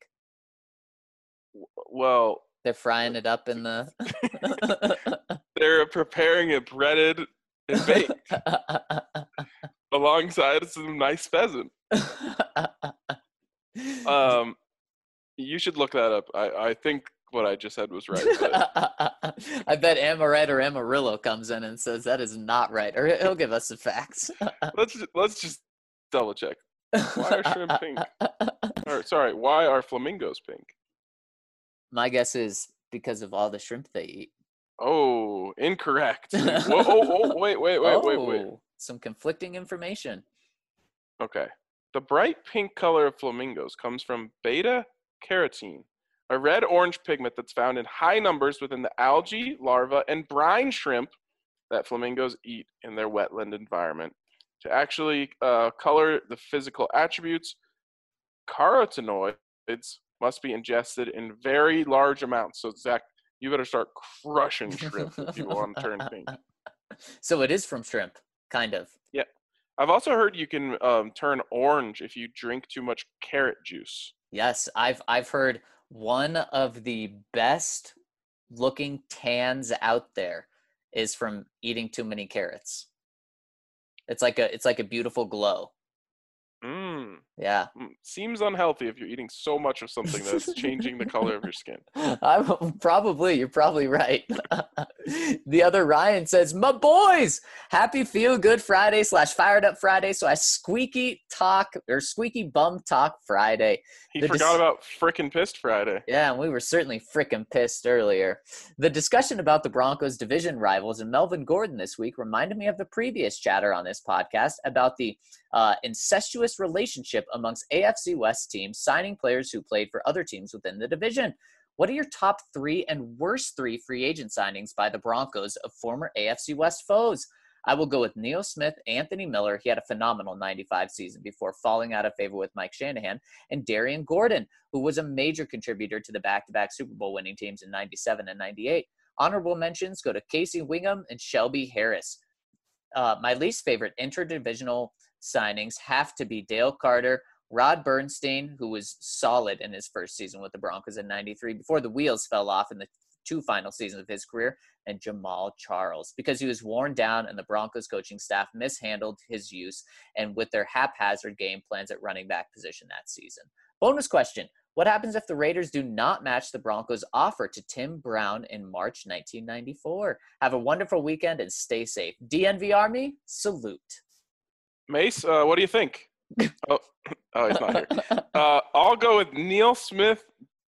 Well, They're frying it up in the. they're preparing it breaded and baked alongside some nice pheasant. You should look that up. I think what I just said was right. But I bet Amaret or Amarillo comes in and says that is not right, or he'll give us the facts. let's just double check. Why are shrimp pink? Or sorry, why are flamingos pink? My guess is because of all the shrimp they eat. Oh, incorrect. Whoa, wait. Oh, some conflicting information. Okay. The bright pink color of flamingos comes from beta carotene, a red-orange pigment that's found in high numbers within the algae, larvae, and brine shrimp that flamingos eat in their wetland environment. To actually color the physical attributes, carotenoids must be ingested in very large amounts. So, Zach, you better start crushing shrimp if you want to turn pink. So it is from shrimp, kind of. Yeah. I've also heard you can turn orange if you drink too much carrot juice. Yes, I've heard one of the best looking tans out there is from eating too many carrots. It's like a beautiful glow. Yeah. Seems unhealthy if you're eating so much of something that's changing the color of your skin. You're probably right. The other Ryan says, my boys, happy feel good Friday / fired up Friday. So I squeaky bum talk Friday. He forgot about frickin' pissed Friday. Yeah, and we were certainly frickin' pissed earlier. The discussion about the Broncos' division rivals and Melvin Gordon this week reminded me of the previous chatter on this podcast about the incestuous relationship amongst AFC West teams signing players who played for other teams within the division. What are your top 3 and worst 3 free agent signings by the Broncos of former AFC West foes? I will go with Neil Smith, Anthony Miller. He had a phenomenal 95 season before falling out of favor with Mike Shanahan, and Darian Gordon, who was a major contributor to the back-to-back Super Bowl winning teams in 97 and 98. Honorable mentions go to Casey Wingham and Shelby Harris. My least favorite interdivisional signings have to be Dale Carter, Rod Bernstein, who was solid in his first season with the Broncos in 93 before the wheels fell off in the 2 final seasons of his career, and Jamal Charles, because he was worn down and the Broncos coaching staff mishandled his use and with their haphazard game plans at running back position that season. Bonus question. What happens if the Raiders do not match the Broncos' offer to Tim Brown in March 1994? Have a wonderful weekend and stay safe. DNV Army, salute. Mace, what do you think? Oh, he's not here. I'll go with Neil Smith,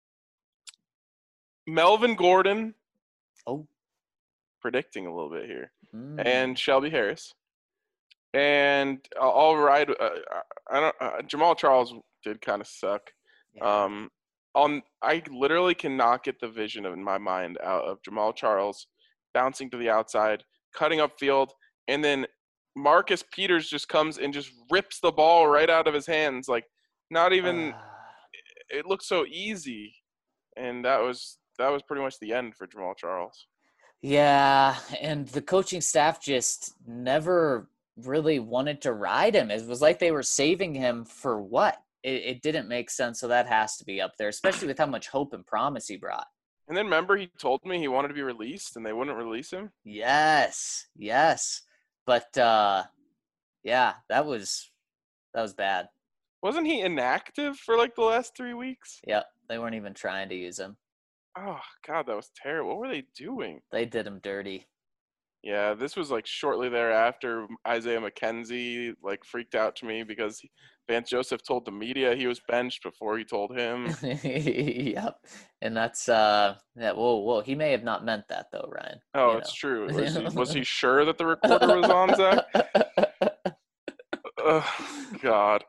Melvin Gordon. Oh. Predicting a little bit here. And Shelby Harris. And I'll ride. Jamal Charles did kind of suck. Yeah. I literally cannot get the vision in my mind out of Jamal Charles bouncing to the outside, cutting up field, and then Marcus Peters just comes and just rips the ball right out of his hands. Like, not even it looked so easy. And that was pretty much the end for Jamal Charles. Yeah, and the coaching staff just never really wanted to ride him. It was like they were saving him for what? It didn't make sense, so that has to be up there, especially with how much hope and promise he brought. And then remember, he told me he wanted to be released, and they wouldn't release him. Yes, but yeah, that was bad. Wasn't he inactive for like the last 3 weeks? Yep, they weren't even trying to use him. Oh God, that was terrible. What were they doing? They did him dirty. Yeah, this was like shortly thereafter. Isaiah McKenzie like freaked out to me because Vance Joseph told the media he was benched before he told him. Yep, and that's yeah. Whoa, he may have not meant that though, Ryan. Oh, it's true. Was he sure that the recorder was on, Zach? Oh, God.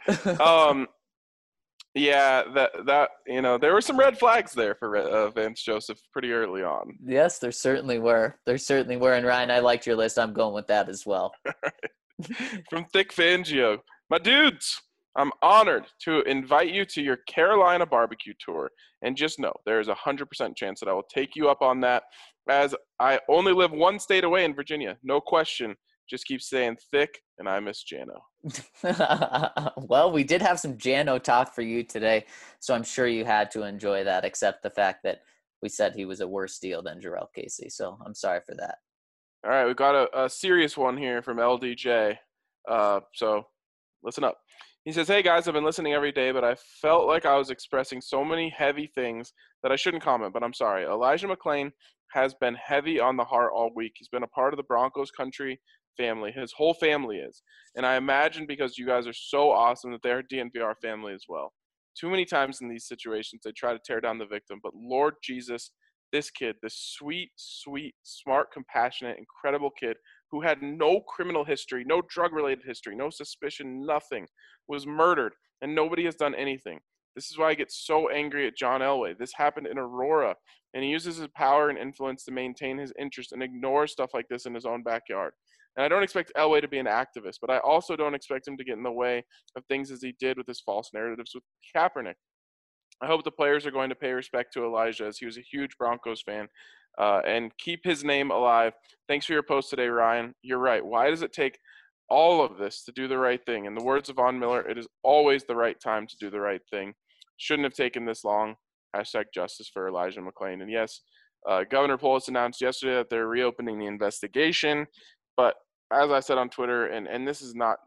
Yeah, that there were some red flags there for Vance Joseph pretty early on. Yes, there certainly were. And Ryan, I liked your list. I'm going with that as well. From Thick Fangio, my dudes, I'm honored to invite you to your Carolina barbecue tour. And just know, there is 100% chance that I will take you up on that, as I only live one state away in Virginia. No question. Just keep saying thick, and I miss Jano. Well, we did have some Jano talk for you today, so I'm sure you had to enjoy that, except the fact that we said he was a worse deal than Jarrell Casey. So I'm sorry for that. All right, we've got a serious one here from LDJ. So listen up. He says, hey, guys, I've been listening every day, but I felt like I was expressing so many heavy things that I shouldn't comment, but I'm sorry. Elijah McClain has been heavy on the heart all week. He's been a part of the Broncos country family. His whole family is. And I imagine because you guys are so awesome that they're DNVR family as well. Too many times in these situations, they try to tear down the victim. But Lord Jesus, this kid, this sweet, sweet, smart, compassionate, incredible kid who had no criminal history, no drug-related history, no suspicion, nothing, was murdered, and nobody has done anything. This is why I get so angry at John Elway. This happened in Aurora, and he uses his power and influence to maintain his interest and ignore stuff like this in his own backyard. And I don't expect Elway to be an activist, but I also don't expect him to get in the way of things as he did with his false narratives with Kaepernick. I hope the players are going to pay respect to Elijah, as he was a huge Broncos fan, and keep his name alive. Thanks for your post today, Ryan. You're right. Why does it take all of this to do the right thing? In the words of Von Miller, it is always the right time to do the right thing. Shouldn't have taken this long. Hashtag justice for Elijah McClain. And yes, Governor Polis announced yesterday that they're reopening the investigation. But as I said on Twitter, and this is not,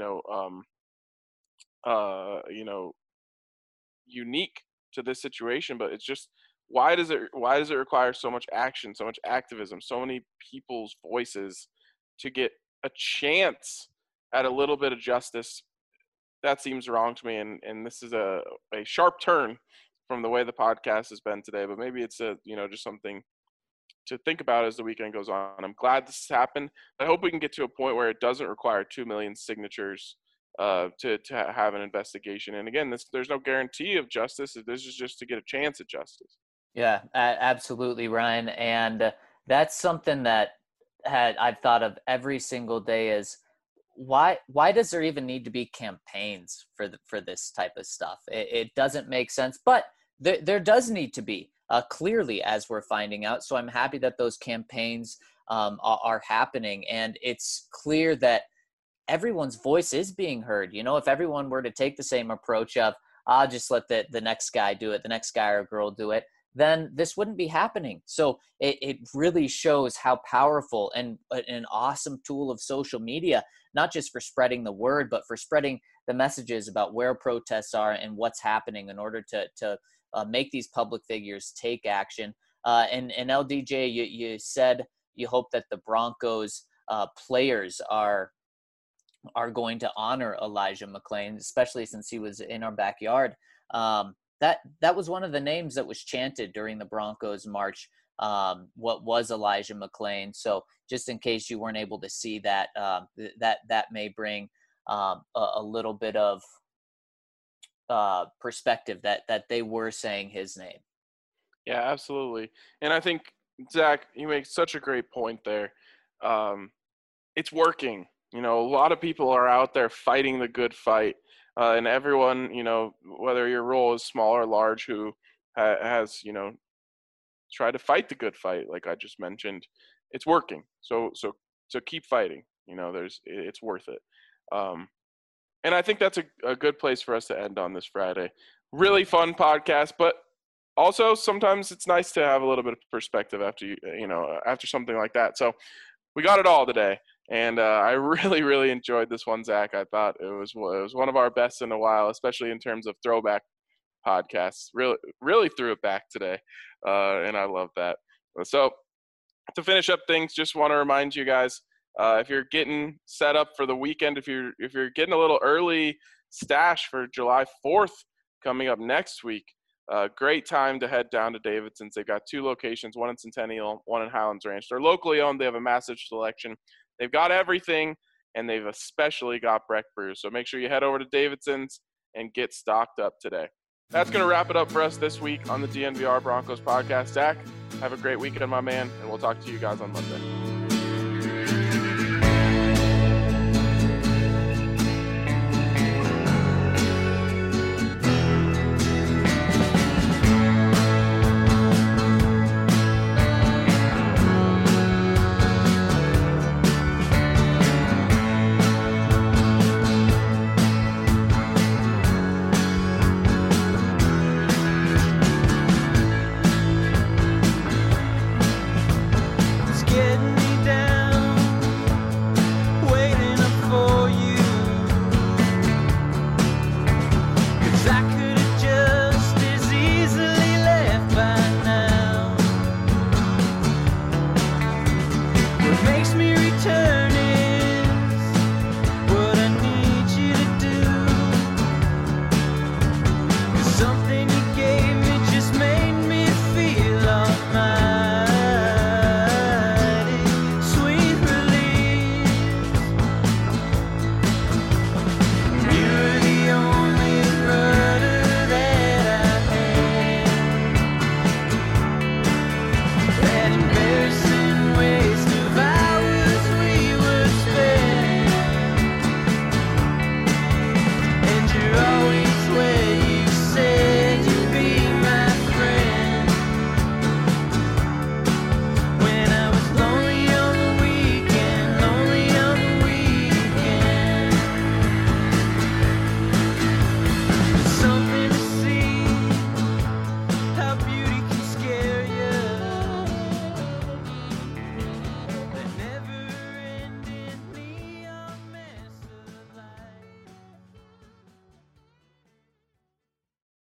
unique to this situation, but it's just, why does it require so much action, so much activism, so many people's voices to get a chance at a little bit of justice? That seems wrong to me, and this is a sharp turn from the way the podcast has been today, but maybe it's just something to think about as the weekend goes on. I'm glad this has happened. I hope we can get to a point where it doesn't require 2 million signatures to have an investigation. And again, there's no guarantee of justice. This is just to get a chance at justice. Yeah, absolutely, Ryan. And that's something that I've thought of every single day is why does there even need to be campaigns for this type of stuff? It doesn't make sense, but there does need to be. Clearly, as we're finding out. So I'm happy that those campaigns are happening. And it's clear that everyone's voice is being heard. If everyone were to take the same approach of, I'll just let the next guy do it, the next guy or girl do it, then this wouldn't be happening. So it really shows how powerful and an awesome tool of social media, not just for spreading the word, but for spreading the messages about where protests are and what's happening in order to make these public figures take action. And LDJ, you said you hope that the Broncos players are going to honor Elijah McClain, especially since he was in our backyard. That was one of the names that was chanted during the Broncos march. What was Elijah McClain? So just in case you weren't able to see that, that may bring a little bit of perspective that they were saying his name. Yeah, absolutely. And I think, Zach, you make such a great point there. It's working. You know, a lot of people are out there fighting the good fight, and everyone, you know, whether your role is small or large, who has, you know, tried to fight the good fight, like I just mentioned, it's working. So keep fighting. You know, it's worth it. And I think that's a good place for us to end on this Friday. Really fun podcast, but also sometimes it's nice to have a little bit of perspective after something like that. So we got it all today, and I really enjoyed this one, Zach. I thought it was one of our best in a while, especially in terms of throwback podcasts. Really threw it back today, and I love that. So to finish up things, just want to remind you guys, if you're getting set up for the weekend, if you're getting a little early stash for July 4th coming up next week, great time to head down to Davidson's. They've got 2 locations, one in Centennial, one in Highlands Ranch. They're locally owned. They have a massive selection. They've got everything, and they've especially got Breck brews. So make sure you head over to Davidson's and get stocked up today. That's going to wrap it up for us this week on the DNVR Broncos podcast. Zach, have a great weekend, my man, and we'll talk to you guys on Monday.